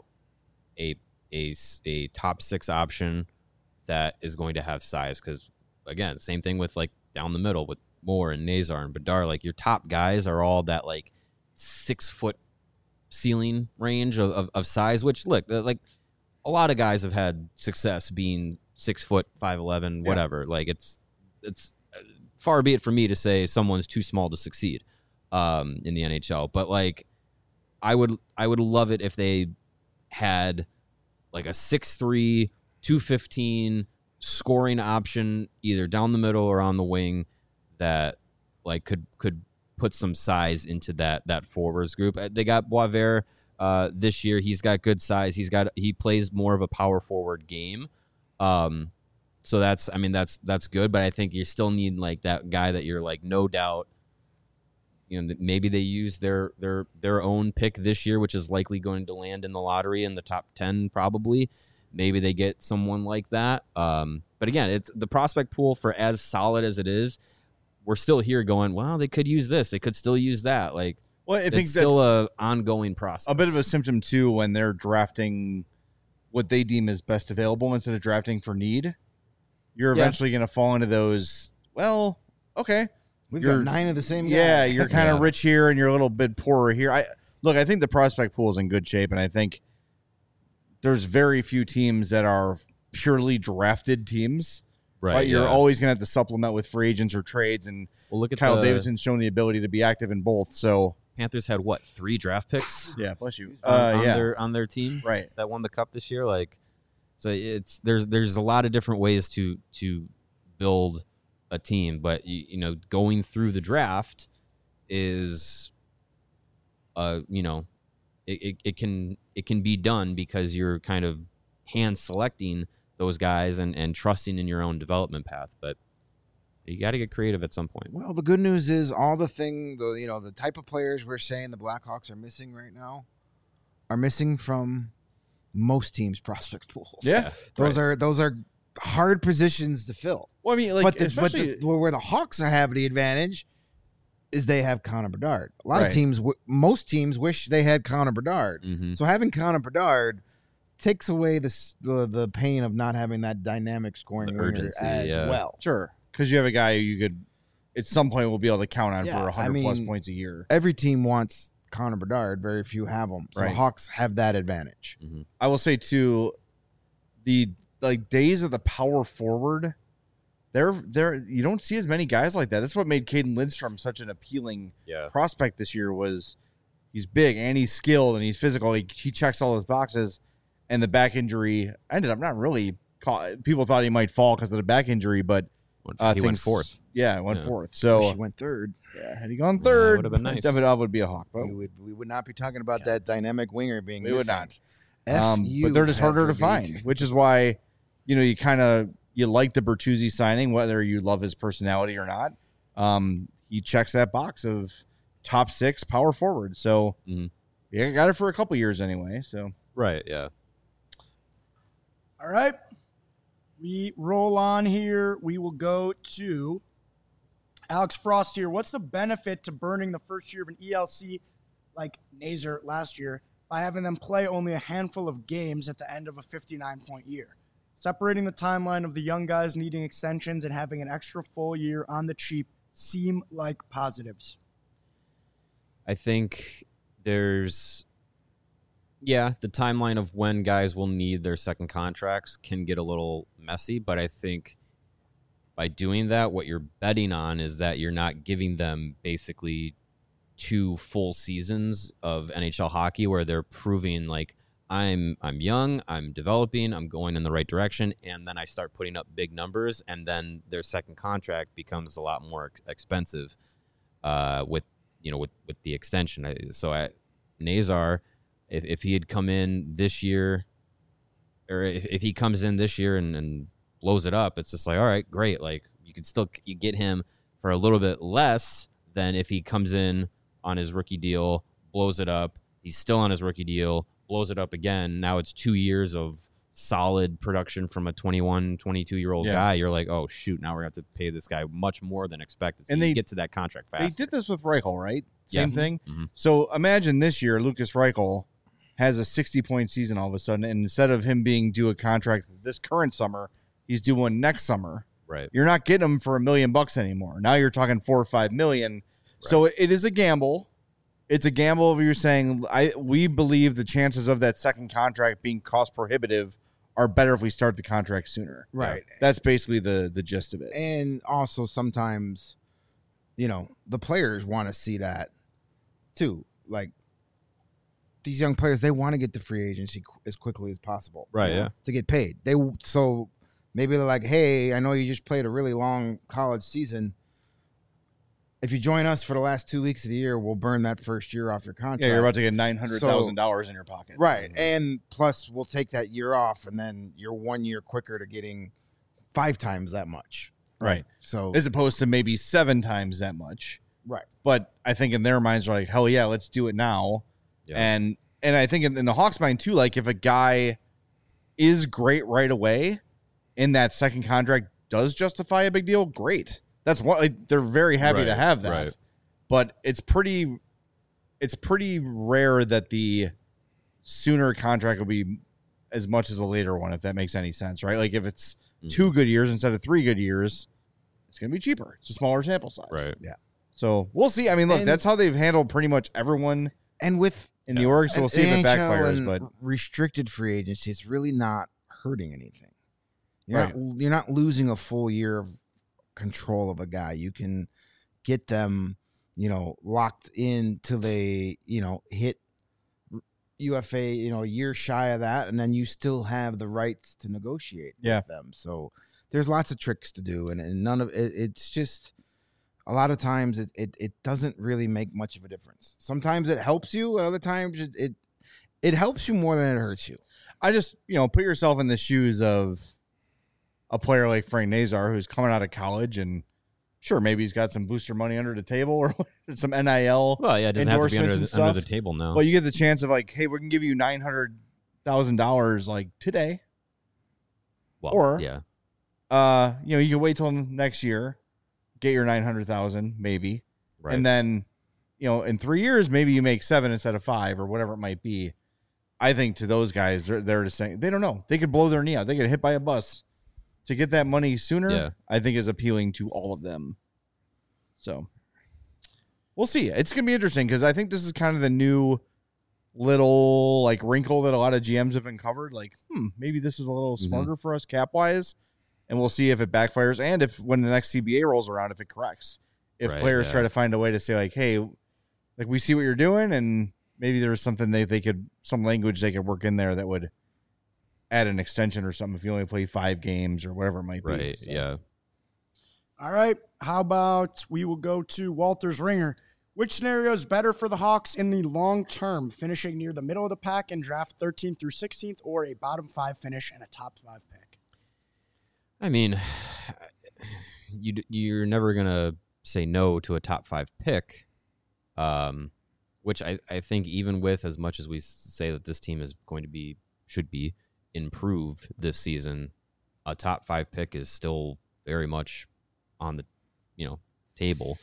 a top 6 option that is going to have size. Because again, same thing with like down the middle with Moore and Nazar and Bedard. Like your top guys are all that like 6 foot ceiling range of size. Which look, like a lot of guys have had success being 6 foot, 5'11", whatever. Like it's far be it for me to say someone's too small to succeed in the NHL. But like I would love it if they had like a 6'3", 215 scoring option either down the middle or on the wing that like could put some size into that forwards group. They got Boisvert this year. He's got good size. He plays more of a power forward game. So that's good, but I think you still need like that guy that you're like no doubt, you know, maybe they use their own pick this year, which is likely going to land in the lottery in the top 10 probably. Maybe they get someone like that. But again, it's the prospect pool for as solid as it is. We're still here going, well, they could use this. They could still use that. Like, well, I think it's still a ongoing process. A bit of a symptom too when they're drafting what they deem as best available instead of drafting for need. You're eventually going to fall into those. Well, okay, We've got 9 of the same guy. Yeah, you're kind of rich here and you're a little bit poorer here. I think the prospect pool is in good shape, and I think there's very few teams that are purely drafted teams. Right, you're always going to have to supplement with free agents or trades, and look at Kyle Davidson's shown the ability to be active in both. So Panthers had 3 draft picks? Yeah, bless you. On their team, right? That won the cup this year. Like, so there's a lot of different ways to build a team, but you know, going through the draft is, it can be done because you're kind of hand selecting those guys and trusting in your own development path. But you got to get creative at some point. Well, the good news is the type of players we're saying the Blackhawks are missing right now are missing from most teams' prospect pools. Yeah, those are hard positions to fill. Well, I mean, like, where the Hawks have the advantage is they have Connor Bedard. A lot of teams, most teams, wish they had Connor Bedard. Mm-hmm. So having Connor Bedard takes away the pain of not having that dynamic scoring urgency as well. Sure, because you have a guy who you could at some point will be able to count on for 100 plus points a year. Every team wants Connor Bedard. Very few have him. So the Hawks have that advantage. Mm-hmm. I will say too, the days of the power forward, there you don't see as many guys like that. That's what made Caden Lindstrom such an appealing prospect this year. Was he's big and he's skilled and he's physical. He checks all his boxes. And the back injury ended up not really. People thought he might fall because of the back injury, but he went fourth. Yeah, went fourth. So he went third. Yeah, had he gone third, would have been nice. Davidov would be a Hawk. But we would not be talking about that dynamic winger being. We would not. But they're just harder to find, which is why you like the Bertuzzi signing, whether you love his personality or not. He checks that box of top 6 power forward. So yeah, got it for a couple years anyway. So yeah. All right. We roll on here. We will go to Alex Frost here. What's the benefit to burning the first year of an ELC like Nazar last year by having them play only a handful of games at the end of a 59-point year? Separating the timeline of the young guys needing extensions and having an extra full year on the cheap seem like positives. I think there's... Yeah, the timeline of when guys will need their second contracts can get a little messy, but I think by doing that, what you're betting on is that you're not giving them basically 2 full seasons of NHL hockey where they're proving like I'm young, I'm developing, I'm going in the right direction, and then I start putting up big numbers, and then their second contract becomes a lot more expensive with the extension. So at Nazar, if he had come in this year or if he comes in this year and blows it up, it's just like, all right, great. Like you get him for a little bit less than if he comes in on his rookie deal, blows it up. He's still on his rookie deal, blows it up again. Now it's 2 years of solid production from a 21, 22-year-old guy. You're like, oh, shoot, now we're going to have to pay this guy much more than expected. So and they get to that contract fast. They did this with Reichel, right? Same thing. Mm-hmm. So imagine this year, Lucas Reichel has a 60-point season all of a sudden, and instead of him being due a contract this current summer, he's due one next summer. Right. You're not getting him for $1 million anymore. Now you're talking $4 or $5 million. Right. So it is a gamble. It's a gamble of you're saying we believe the chances of that second contract being cost prohibitive are better if we start the contract sooner. Right. That's basically the gist of it. And also sometimes, the players want to see that too. Like these young players, they want to get to free agency as quickly as possible. Right, yeah. To get paid. So maybe they're like, hey, I know you just played a really long college season. If you join us for the last 2 weeks of the year, we'll burn that first year off your contract. Yeah, you're about to get $900,000 in your pocket. Right. And plus, we'll take that year off, and then you're 1 year quicker to getting 5 times that much. Right. So as opposed to maybe 7 times that much. Right. But I think in their minds, they're like, hell yeah, let's do it now. Yeah. And I think in the Hawks' mind, too, like if a guy is great right away and that second contract does justify a big deal, great. That's what they're very happy to have that. Right. But it's pretty rare that the sooner contract will be as much as a later one, if that makes any sense, right? Like if it's 2 good years instead of 3 good years, it's going to be cheaper. It's a smaller sample size. Right. Yeah. So we'll see. I mean, look, that's how they've handled pretty much everyone in the org. So we'll see if it backfires. But restricted free agency, it's really not hurting anything. You're not losing a full year of control of a guy. You can get them, locked in till they, hit UFA, a year shy of that, and then you still have the rights to negotiate with them. So there's lots of tricks to do, and none of it. It's just a lot of times it doesn't really make much of a difference. Sometimes it helps you, and other times it helps you more than it hurts you. I just put yourself in the shoes of a player like Frank Nazar, who's coming out of college, and sure, maybe he's got some booster money under the table or some NIL. Well, yeah, it doesn't have to be under the table now. But you get the chance of like, hey, we can give you $900,000 like today. Well, or yeah, you can wait till next year, get your $900,000 maybe, right. And then in 3 years maybe you make 7 instead of 5 or whatever it might be. I think to those guys, they're just saying they don't know. They could blow their knee out. They get hit by a bus. To get that money sooner, I think is appealing to all of them. So we'll see. It's going to be interesting because I think this is kind of the new little like wrinkle that a lot of GMs have uncovered. Like, maybe this is a little smarter for us cap wise, and we'll see if it backfires and if when the next CBA rolls around, if it corrects. If players try to find a way to say like, hey, like we see what you're doing, and maybe there's something some language they could work in there that would add an extension or something if you only play 5 games or whatever it might be. Right, so. yeah. All right. How about we will go to Walter's Ringer. Which scenario is better for the Hawks in the long term, finishing near the middle of the pack in draft 13th through 16th, or a bottom 5 finish and a top 5 pick? I mean, you're never going to say no to a top 5 pick, which I think even with as much as we say that this team is going to should be improved this season, a top 5 pick is still very much on the table.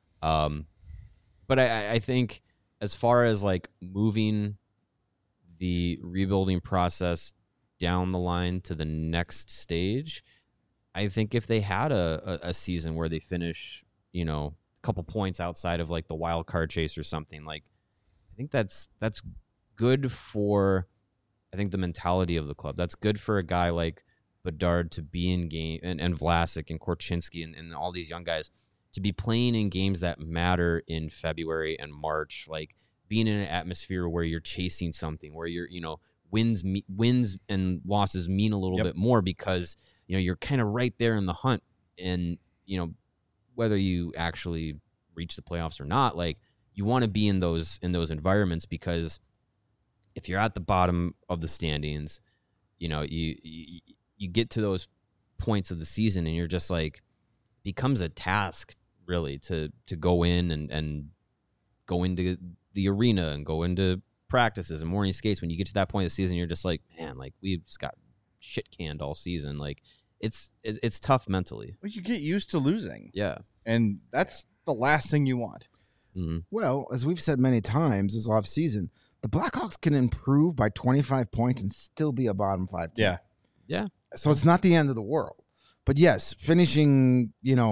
But I think as far as like moving the rebuilding process down the line to the next stage, I think if they had a season where they finish a couple points outside of like the wild card chase or something, like I think that's good for the mentality of the club. That's good for a guy like Bedard to be in game and Vlasic and Korchinski and all these young guys to be playing in games that matter in February and March, like being in an atmosphere where you're chasing something, where you're, wins and losses mean a little bit more because, you're kind of right there in the hunt, and, whether you actually reach the playoffs or not, like you want to be in those environments, because if you're at the bottom of the standings you know, you get to those points of the season and you're just like, becomes a task really to go in and go into the arena and go into practices and morning skates. When you get to that point of the season, you're just like, man, like we've just got shit canned all season. Like it's tough mentally. Well, you get used to losing. Yeah. And that's the last thing you want. Mm-hmm. Well, as we've said many times this offseason, the Blackhawks can improve by 25 points and still be a bottom 5 team. Yeah. Yeah. So it's not the end of the world. But yes, finishing,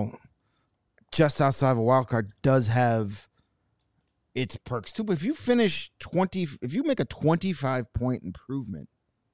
just outside of a wild card does have its perks too. But if you make a 25-point improvement,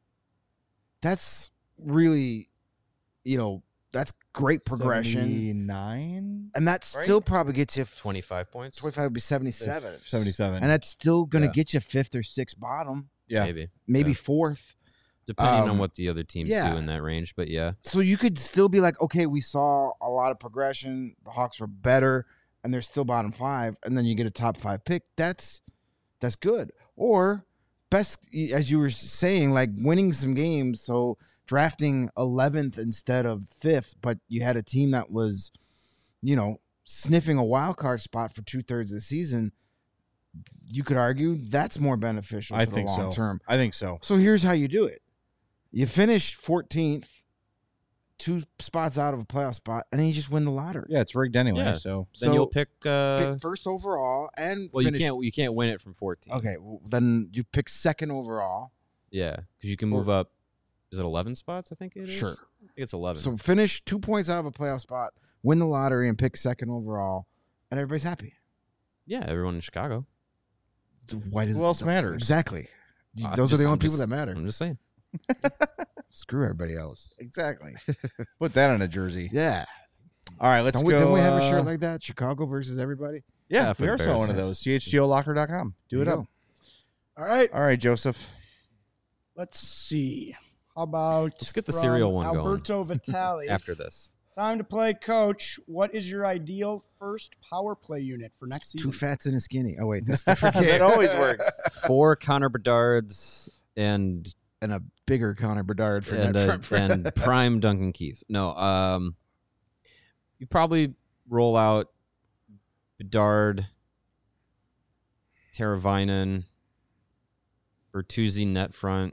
that's really, that's great progression. 79? And that still probably gets you 25 points. 25 would be 77. 77. And that's still going to Yeah. get you 5th or 6th bottom, Yeah. maybe Yeah. 4th. Depending on what the other teams yeah. do in that range. But yeah. So you could still be like, okay, we saw a lot of progression. The Hawks were better, and they're still bottom 5. And then you get a top 5 pick. That's good. Or best, as you were saying, like winning some games. So drafting 11th instead of 5th, but you had a team that was, sniffing a wild card spot for 2/3 of the season. You could argue that's more beneficial I for the think long so. term. I think so. So here's how you do it. You finish 14th, 2 spots out of a playoff spot, and then you just win the lottery. Yeah, it's rigged anyway. Yeah. So Then you'll pick Pick first overall and well, finish. you can't win it from 14. Okay, well, then you pick second overall. Yeah, because you can move up. Is it 11 spots? I think it is. Sure. I think it's 11. So finish 2 points out of a playoff spot, win the lottery, and pick second overall, and everybody's happy. yeah, everyone in Chicago. Why does Who else matters? Exactly. I'm Those are the just- only I'm people just- that matter. I'm just saying. Screw everybody else. exactly. Put that on a jersey. Yeah. All right, let's go. Don't we have a shirt like that? Chicago versus everybody. Yeah, Yeah, for we the are saw Bears. one of those. CHGOlocker.com. Do There it you up. go. All right. All right, Joseph. Let's see. How about Let's get the from cereal one going Alberto Vitale. After this. Time to play, Coach. What is your ideal first power play unit for next season? 2 fats and a skinny. Oh wait, that's different. That always works. 4 Connor Bedards and And a bigger Connor Bedard for net front. and prime Duncan Keith. No, you probably roll out Bedard, Teravainen, Bertuzzi net front.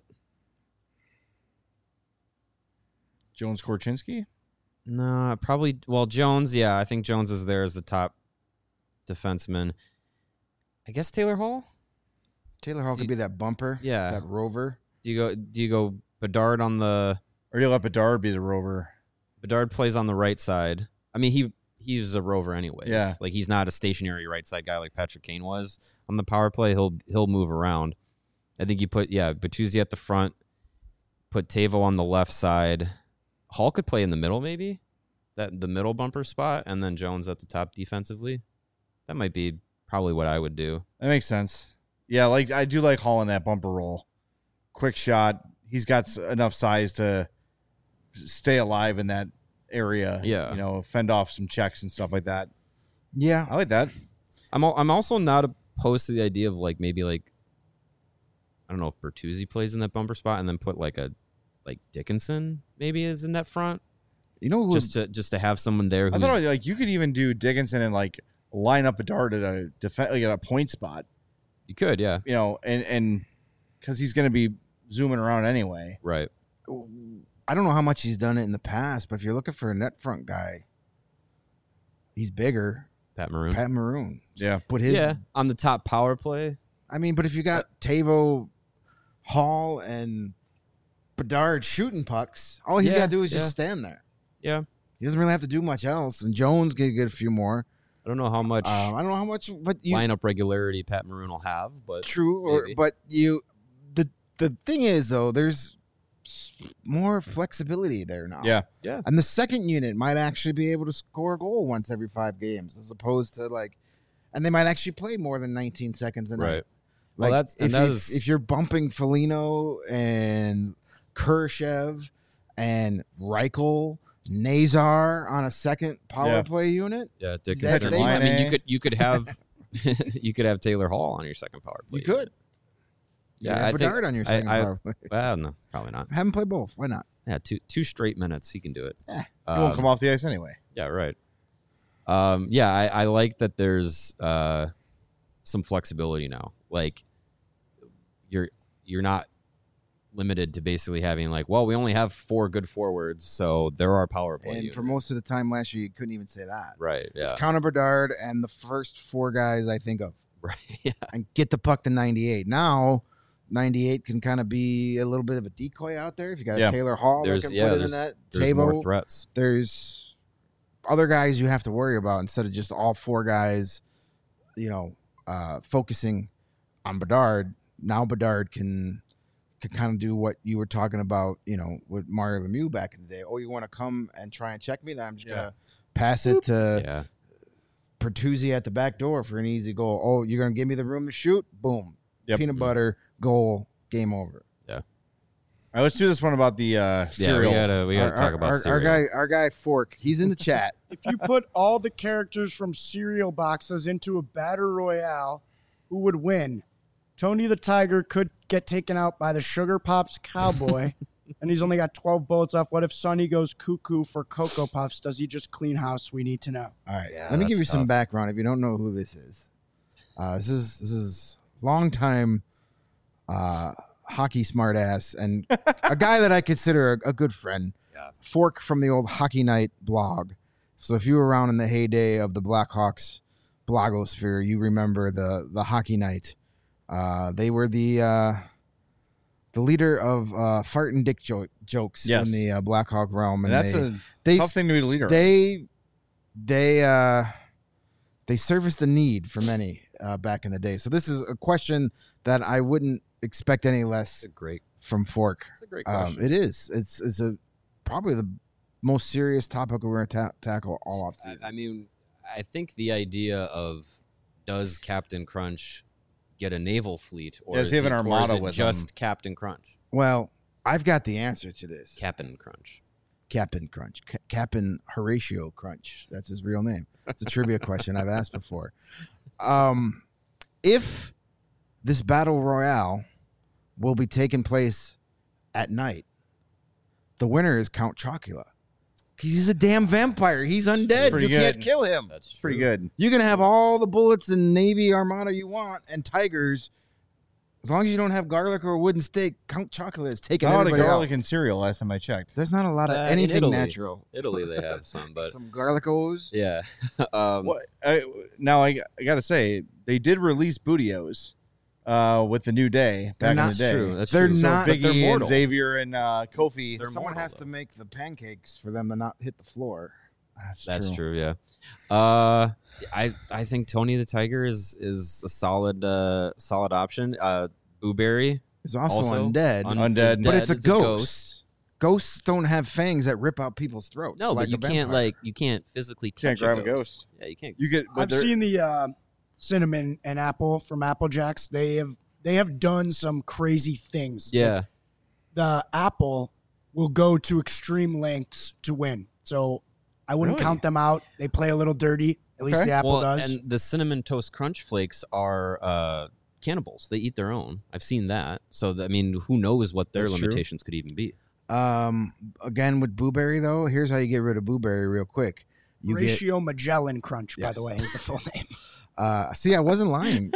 Jones Korchinski? No, probably. Well, Jones. Yeah, I think Jones is there as the top defenseman. I guess Taylor Hall. Taylor Hall could be that bumper. Yeah. That rover. Do you go Bedard on the? Or do you let Bedard be the rover? Bedard plays on the right side. I mean, he's a rover anyways. Yeah. Like he's not a stationary right side guy like Patrick Kane was on the power play. He'll move around. I think you put Bertuzzi at the front, put Tavo on the left side. Hall could play in the middle maybe, the middle bumper spot, and then Jones at the top defensively. That might be probably what I would do. That makes sense. Yeah, like I do like Hall in that bumper roll. Quick shot. He's got enough size to stay alive in that area. Yeah. Fend off some checks and stuff like that. Yeah. I like that. I'm also not opposed to the idea of maybe I don't know if Bertuzzi plays in that bumper spot and then put like Dickinson maybe as a net front. You know who? Just to have someone there. I thought you could even do Dickinson and line up a dart at a at a point spot. You could, yeah. And because he's going to be zooming around anyway. Right. I don't know how much he's done it in the past, but if you're looking for a net front guy, he's bigger. Pat Maroon. Pat Maroon. Yeah. Put his. Yeah, on the top power play. I mean, but if you got Tavo, Hall, and Bedard shooting pucks, all he's Yeah, got to do is yeah. just stand there. Yeah. He doesn't really have to do much else. And Jones can get a few more. I don't know how much I don't know how much, but you lineup regularity Pat Maroon will have, but true. maybe. But the thing is though, there's more flexibility there now. Yeah. yeah. And the second unit might actually be able to score a goal once every 5 games, as opposed to and they might actually play more than 19 seconds a night. Right. Well, Like that's if you're bumping Foligno and Khrushchev and Reichel, Nazar on a second power Yeah. play unit, yeah, Patrick Dickinson. Laine. I mean, you could have you could have Taylor Hall on your second power play. you could. You Yeah, can I have think Bedard on your second power play. Well, no, probably not. Have him play both. Why not? Yeah, two straight minutes, he can do it. Yeah. He won't come off the ice anyway. Yeah, right. Yeah, I like that there's some flexibility now. Like you're not limited to basically having like, well, we only have 4 good forwards, so there are power play. And units. for most of the time last year, you couldn't even say that. Right. Yeah. It's Connor Bedard and the first 4 guys I think of. Right. Yeah. And get the puck to 98. Now, 98 can kind of be a little bit of a decoy out there. If you got a Taylor Hall that can put it in that. There's more threats. There's other guys you have to worry about instead of just all 4 guys, focusing on Bedard. Now Bedard can kind of do what you were talking about, with Mario Lemieux back in the day. Oh, you want to come and try and check me? Then I'm just going to pass it to Pertuzzi at the back door for an easy goal. Oh, you're going to give me the room to shoot? Boom. Yep. Peanut butter, goal, game over. All right, let's do this one about the cereals. We gotta talk about cereal. Our guy Fork, he's in the chat. If you put all the characters from cereal boxes into a battle royale, who would win? Tony the Tiger could get taken out by the Sugar Pops Cowboy, and he's only got 12 bullets left. What if Sonny goes cuckoo for Cocoa Puffs? Does he just clean house? We need to know. All right, Yeah, let me give you that's some tough. background if you don't know who this is. This is longtime hockey smartass and a guy that I consider a good friend. Yeah. Fork from the old Hockey Night blog. So if you were around in the heyday of the Blackhawks blogosphere, you remember the Hockey Night. They were the leader of fart and dick jokes Yes. in the Blackhawk realm, and that's they a tough thing to be the leader of. they serviced a need for many back in the day. So this is a question that I wouldn't expect any less from Fork. It's a great question. It is. It's probably the most serious topic we're going to tackle all off season. I mean, I think the idea of does Captain Crunch get a naval fleet, or Does he have an or armada is it with just him? Captain Crunch? Well, I've got the answer to this. Captain Crunch. Captain Crunch. Captain Horatio Crunch. That's his real name. It's a trivia question I've asked before. If this battle royale will be taking place at night, the winner is Count Chocula. He's a damn vampire. He's undead. Pretty You can't good. kill him. That's true. Pretty good. You can have all the bullets and Navy Armada you want and tigers. As long as you don't have garlic or a wooden steak, Count Chocula is taking Not a lot of everybody garlic out. and cereal last time I checked. There's not a lot of In anything Italy. natural. Italy, they have some, but Some garlicos. yeah. Now I got to say they did release Bootios with the New Day They're back in not the day. true. That's They're true. So not. but they're Biggie and mortal. Xavier and Kofi. They're Someone mortal, has to though. make the pancakes for them to not hit the floor. That's true. Yeah. I think Tony the Tiger is a solid option. Booberry It's also, also undead, Undead. but it's a It's ghost. Ghosts don't have fangs that rip out people's throats. No, like but you a can't vampire. you can't physically Can't touch grab a a ghost. ghost. Yeah, you can't. You get. But I've they're- seen the cinnamon and apple from Apple Jacks. They have done some crazy things. Yeah. The apple will go to extreme lengths to win. So I wouldn't Really? count them out. They play a little dirty. At least Okay. the apple Well, does. and the cinnamon toast crunch flakes are cannibals. They eat their own. I've seen that. So I mean, who knows what their That's true. limitations could even be? Again with Booberry though, here's how you get rid of Booberry real quick. You Ratio Magellan Crunch, by Yes. the way, is the full name. See, I wasn't lying.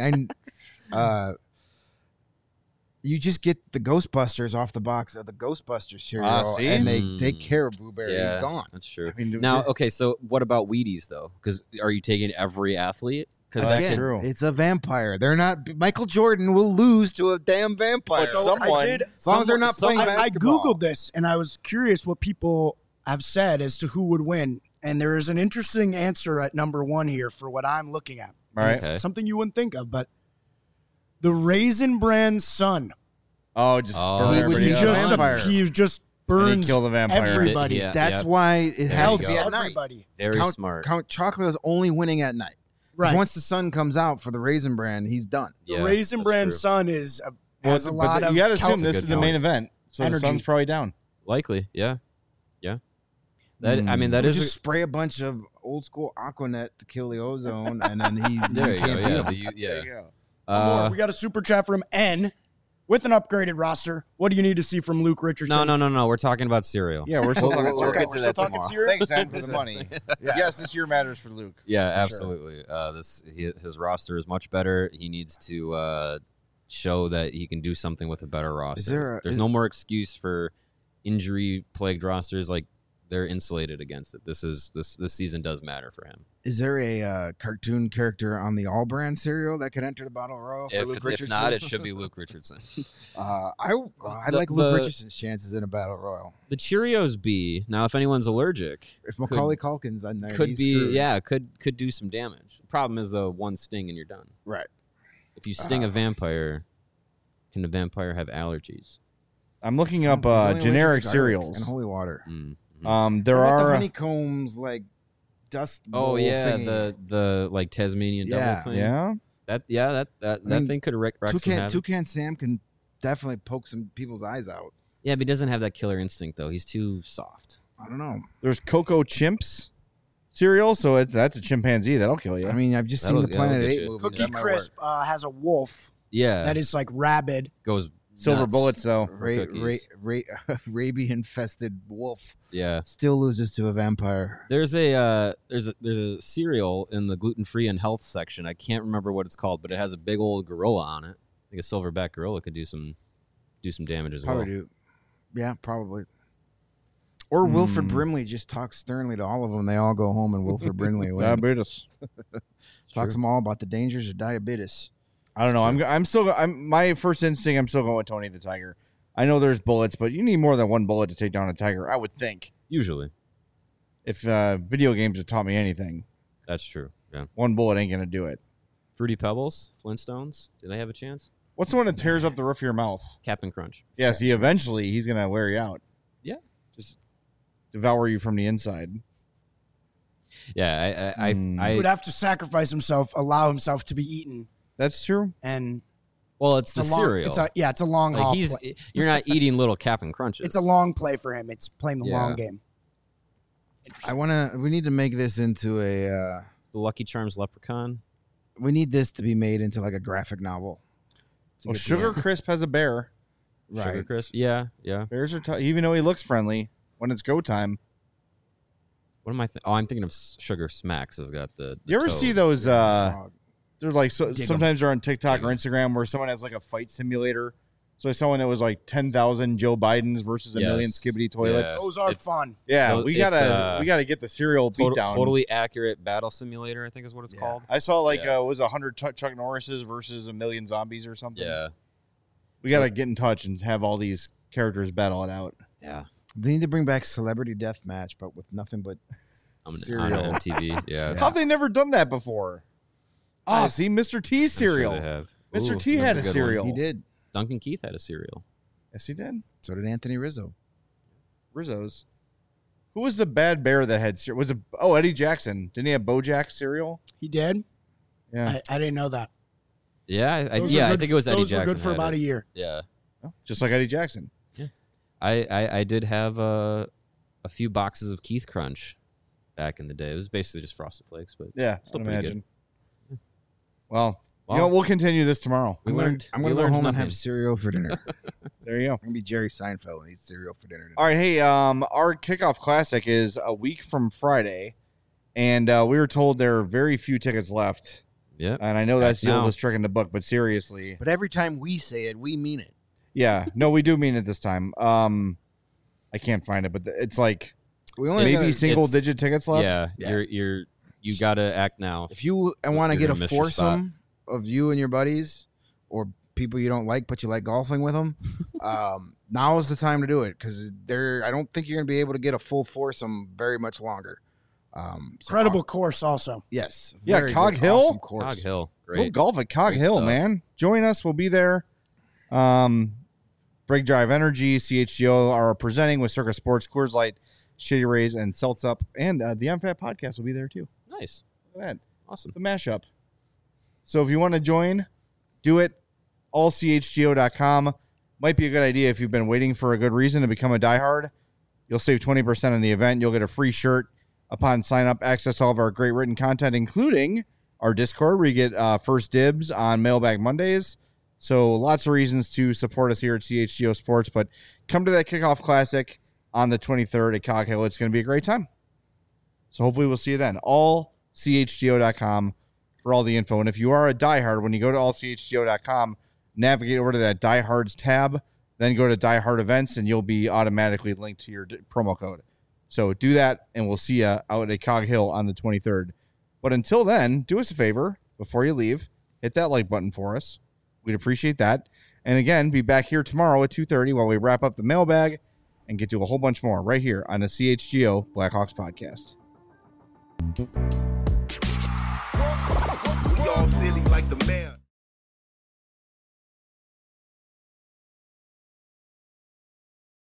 You just get the Ghostbusters off the box of the Ghostbusters cereal, see? and they Mm. take care of Booberry. Yeah, He's gone. That's true. I mean, Now, okay, so what about Wheaties though? Because are you taking every athlete? Because that Again, could, true. It's a vampire. They're not. Michael Jordan will lose to a damn vampire. But someone- as long as they're not playing I basketball. Googled this, and I was curious what people have said as to who would win. And there is an interesting answer at number 1 here for what I'm looking at. all right. Okay. Something you wouldn't think of, but the Raisin Bran son. Oh, just Oh. burn He would everybody be up. just a And He just he burns kill the vampire. everybody. Yeah, That's yeah. why it There has you to go. be at night. everybody. Very Count, smart. Count Chocula is only winning at night. 'Cause Right. Once the sun comes out for the Raisin Bran, he's done. The Yeah, Raisin that's Bran true. son has a lot of you got to assume That's a this good is the point. main event, so Energy. the sun's probably down. Likely, yeah. That I mean, that We'll is just spray a bunch of old school Aquanet to kill the ozone, and then there you you can't go. beat Yeah, him. There you go. More. We got a super chat from N. with an upgraded roster, what do you need to see from Luke Richardson? No. We're talking about cereal. Yeah, we're still talking. we'll Okay, get we're to still that talking tomorrow. Syria. Thanks, Zen, for the money. Yeah. Yes, this year matters for Luke. Yeah, For sure. absolutely. His roster is much better. He needs to show that he can do something with a better roster. There's no more excuse for injury-plagued rosters. Like, they're insulated against it. This season does matter for him. Is there a cartoon character on the All Brand cereal that could enter the Battle Royal for Luke If Richardson? not, it should be Luke Richardson. I like The- Luke Richardson's chances in a Battle Royal. The Cheerios B. Now, if anyone's allergic, If Macaulay Culkin's on there, could he's be screwed. could do some damage. The problem is one sting and you're done. Right. If you sting a vampire, can the vampire have allergies? I'm looking up He's only allergic generic to garlic cereals. and holy water. There What about the are. honeycombs like dust. Oh bowl yeah, thingy? the like Tasmanian Yeah. devil thing. Yeah. That mean, thing could wreck some havoc. Toucan Sam can definitely poke some people's eyes out. Yeah, but he doesn't have that killer instinct though. He's too soft. I don't know. There's Cocoa Chimps cereal, so that's a chimpanzee that'll kill you. I mean, I've just That'll- seen the that'll Planet get 8 you. movie. Cookie That might Crisp has a wolf Yeah, that is like rabid. goes Silver nuts. bullets, though. work. cookies. Rabies infested wolf Yeah, still loses to a vampire. there's a cereal in the gluten-free and health section. I can't remember what it's called, but it has a big old gorilla on it. I think a silverback gorilla could do some damage as Probably well. do. Yeah, probably. Or Wilford Brimley just talks sternly to all of them. They all go home, and Wilford Brimley wins. Diabetes. Talks them all about the dangers of diabetes. I don't know. I'm my first instinct. I'm still going with Tony the Tiger. I know there's bullets, but you need more than one bullet to take down a tiger. I would think. Usually, If video games have taught me anything, that's true. Yeah, one bullet ain't gonna do it. Fruity Pebbles, Flintstones. Do they have a chance? What's the one that tears up the roof of your mouth? Captain Crunch. Yeah, see, eventually he's gonna wear you out. Yeah. Just devour you from the inside. Yeah, He I would have to sacrifice himself, allow himself to be eaten, That's true. and well, it's the a long, cereal. it's a long haul. Like play. you're not eating little Captain Crunches. It's a long play for him. It's playing the Yeah. long game. We need to make this into a. the Lucky Charms leprechaun. We need this to be made into like a graphic novel. To Well, get the- Sugar Crisp has a bear. Sugar right? Crisp. Yeah. Bears are even though he looks friendly when it's go time. What am I? I'm thinking of Sugar Smacks. Has got the You ever toad. see those? Frog. They're like Dig 'em. sometimes they're on TikTok Dig or 'em. Instagram where someone has like a fight simulator. So I saw one that was like 10,000 Joe Bidens versus a million Yes. Skibbity toilets. Yeah. Those are It's- fun. Yeah, So we it's, gotta get the cereal beat down. Totally accurate battle simulator. I think is what it's Yeah. called. I saw like Yeah. it was 100 Chuck Norrises versus a million zombies or something. Yeah. We gotta get in touch and have all these characters battle it out. Yeah. They need to bring back Celebrity Deathmatch, but with nothing but On cereal. MTV. Yeah. Yeah. How have they never done that before? Oh, see, Mr. T's I'm sure cereal. they have. Mr. Ooh, T that's had a a good one. cereal. He did. Duncan Keith had a cereal. Yes, he did. So did Anthony Rizzo. Rizzo's. Who was the bad bear that had cereal? Was it Eddie Jackson? Didn't he have BoJack cereal? He did. Yeah, I didn't know that. Yeah. I Those were I good- think it was Eddie those Jackson. were good for had about it. a year. Yeah. just like Eddie Jackson. I did have a few boxes of Keith Crunch back in the day. It was basically just Frosted Flakes, but Yeah, Still I'd pretty imagine. Well, Wow. we'll continue this tomorrow. we I'm gonna- learned. I'm we going to go learned home and nothing. have cereal for dinner. There you go. I'm going to be Jerry Seinfeld and eat cereal for dinner. All right, hey, our kickoff classic is a week from Friday, and we were told there are very few tickets left. Yeah. And I know that's the Now. oldest trick in the book, but seriously, But every time we say it, we mean it. yeah, no, we do mean it this time. I can't find it, but it's like We only maybe gotta- single it's- digit tickets left. Yeah. Yeah. You gotta act now. If you want to You're get a gonna miss your spot. foursome of you and your buddies or people you don't like, but you like golfing with them, now is the time to do it because I don't think you're going to be able to get a full foursome very much longer. Incredible course, also. Yes. Yeah, very Cog good, Hill? awesome course. Cog Hill. Go Great. golf at Cog Great Hill, stuff. man. Join us. We'll be there. Break Drive Energy, CHGO are presenting with Circus Sports, Coors Light, Shady Rays, and Seltz Up. And the MFAT podcast will be there too. Nice. Look at that. Awesome. It's a mashup. So if you want to join, do it. Allchgo.com. Might be a good idea if you've been waiting for a good reason to become a diehard. You'll save 20% on the event. You'll get a free shirt upon sign up, access to all of our great written content, including our Discord where you get first dibs on Mailbag Mondays, So lots of reasons to support us here at CHGO Sports, but come to that Kickoff Classic on the 23rd at Cog Hill. It's going to be a great time. So hopefully we'll see you then. AllCHGO.com for all the info. And if you are a diehard, when you go to AllCHGO.com, navigate over to that Diehards tab, then go to Diehard Events, and you'll be automatically linked to your promo code. So do that, and we'll see you out at Cog Hill on the 23rd. But until then, do us a favor before you leave. Hit that like button for us. We'd appreciate that. And again, be back here tomorrow at 2:30 while we wrap up the mailbag and get to a whole bunch more right here on the CHGO Blackhawks podcast. We all silly like the mayor.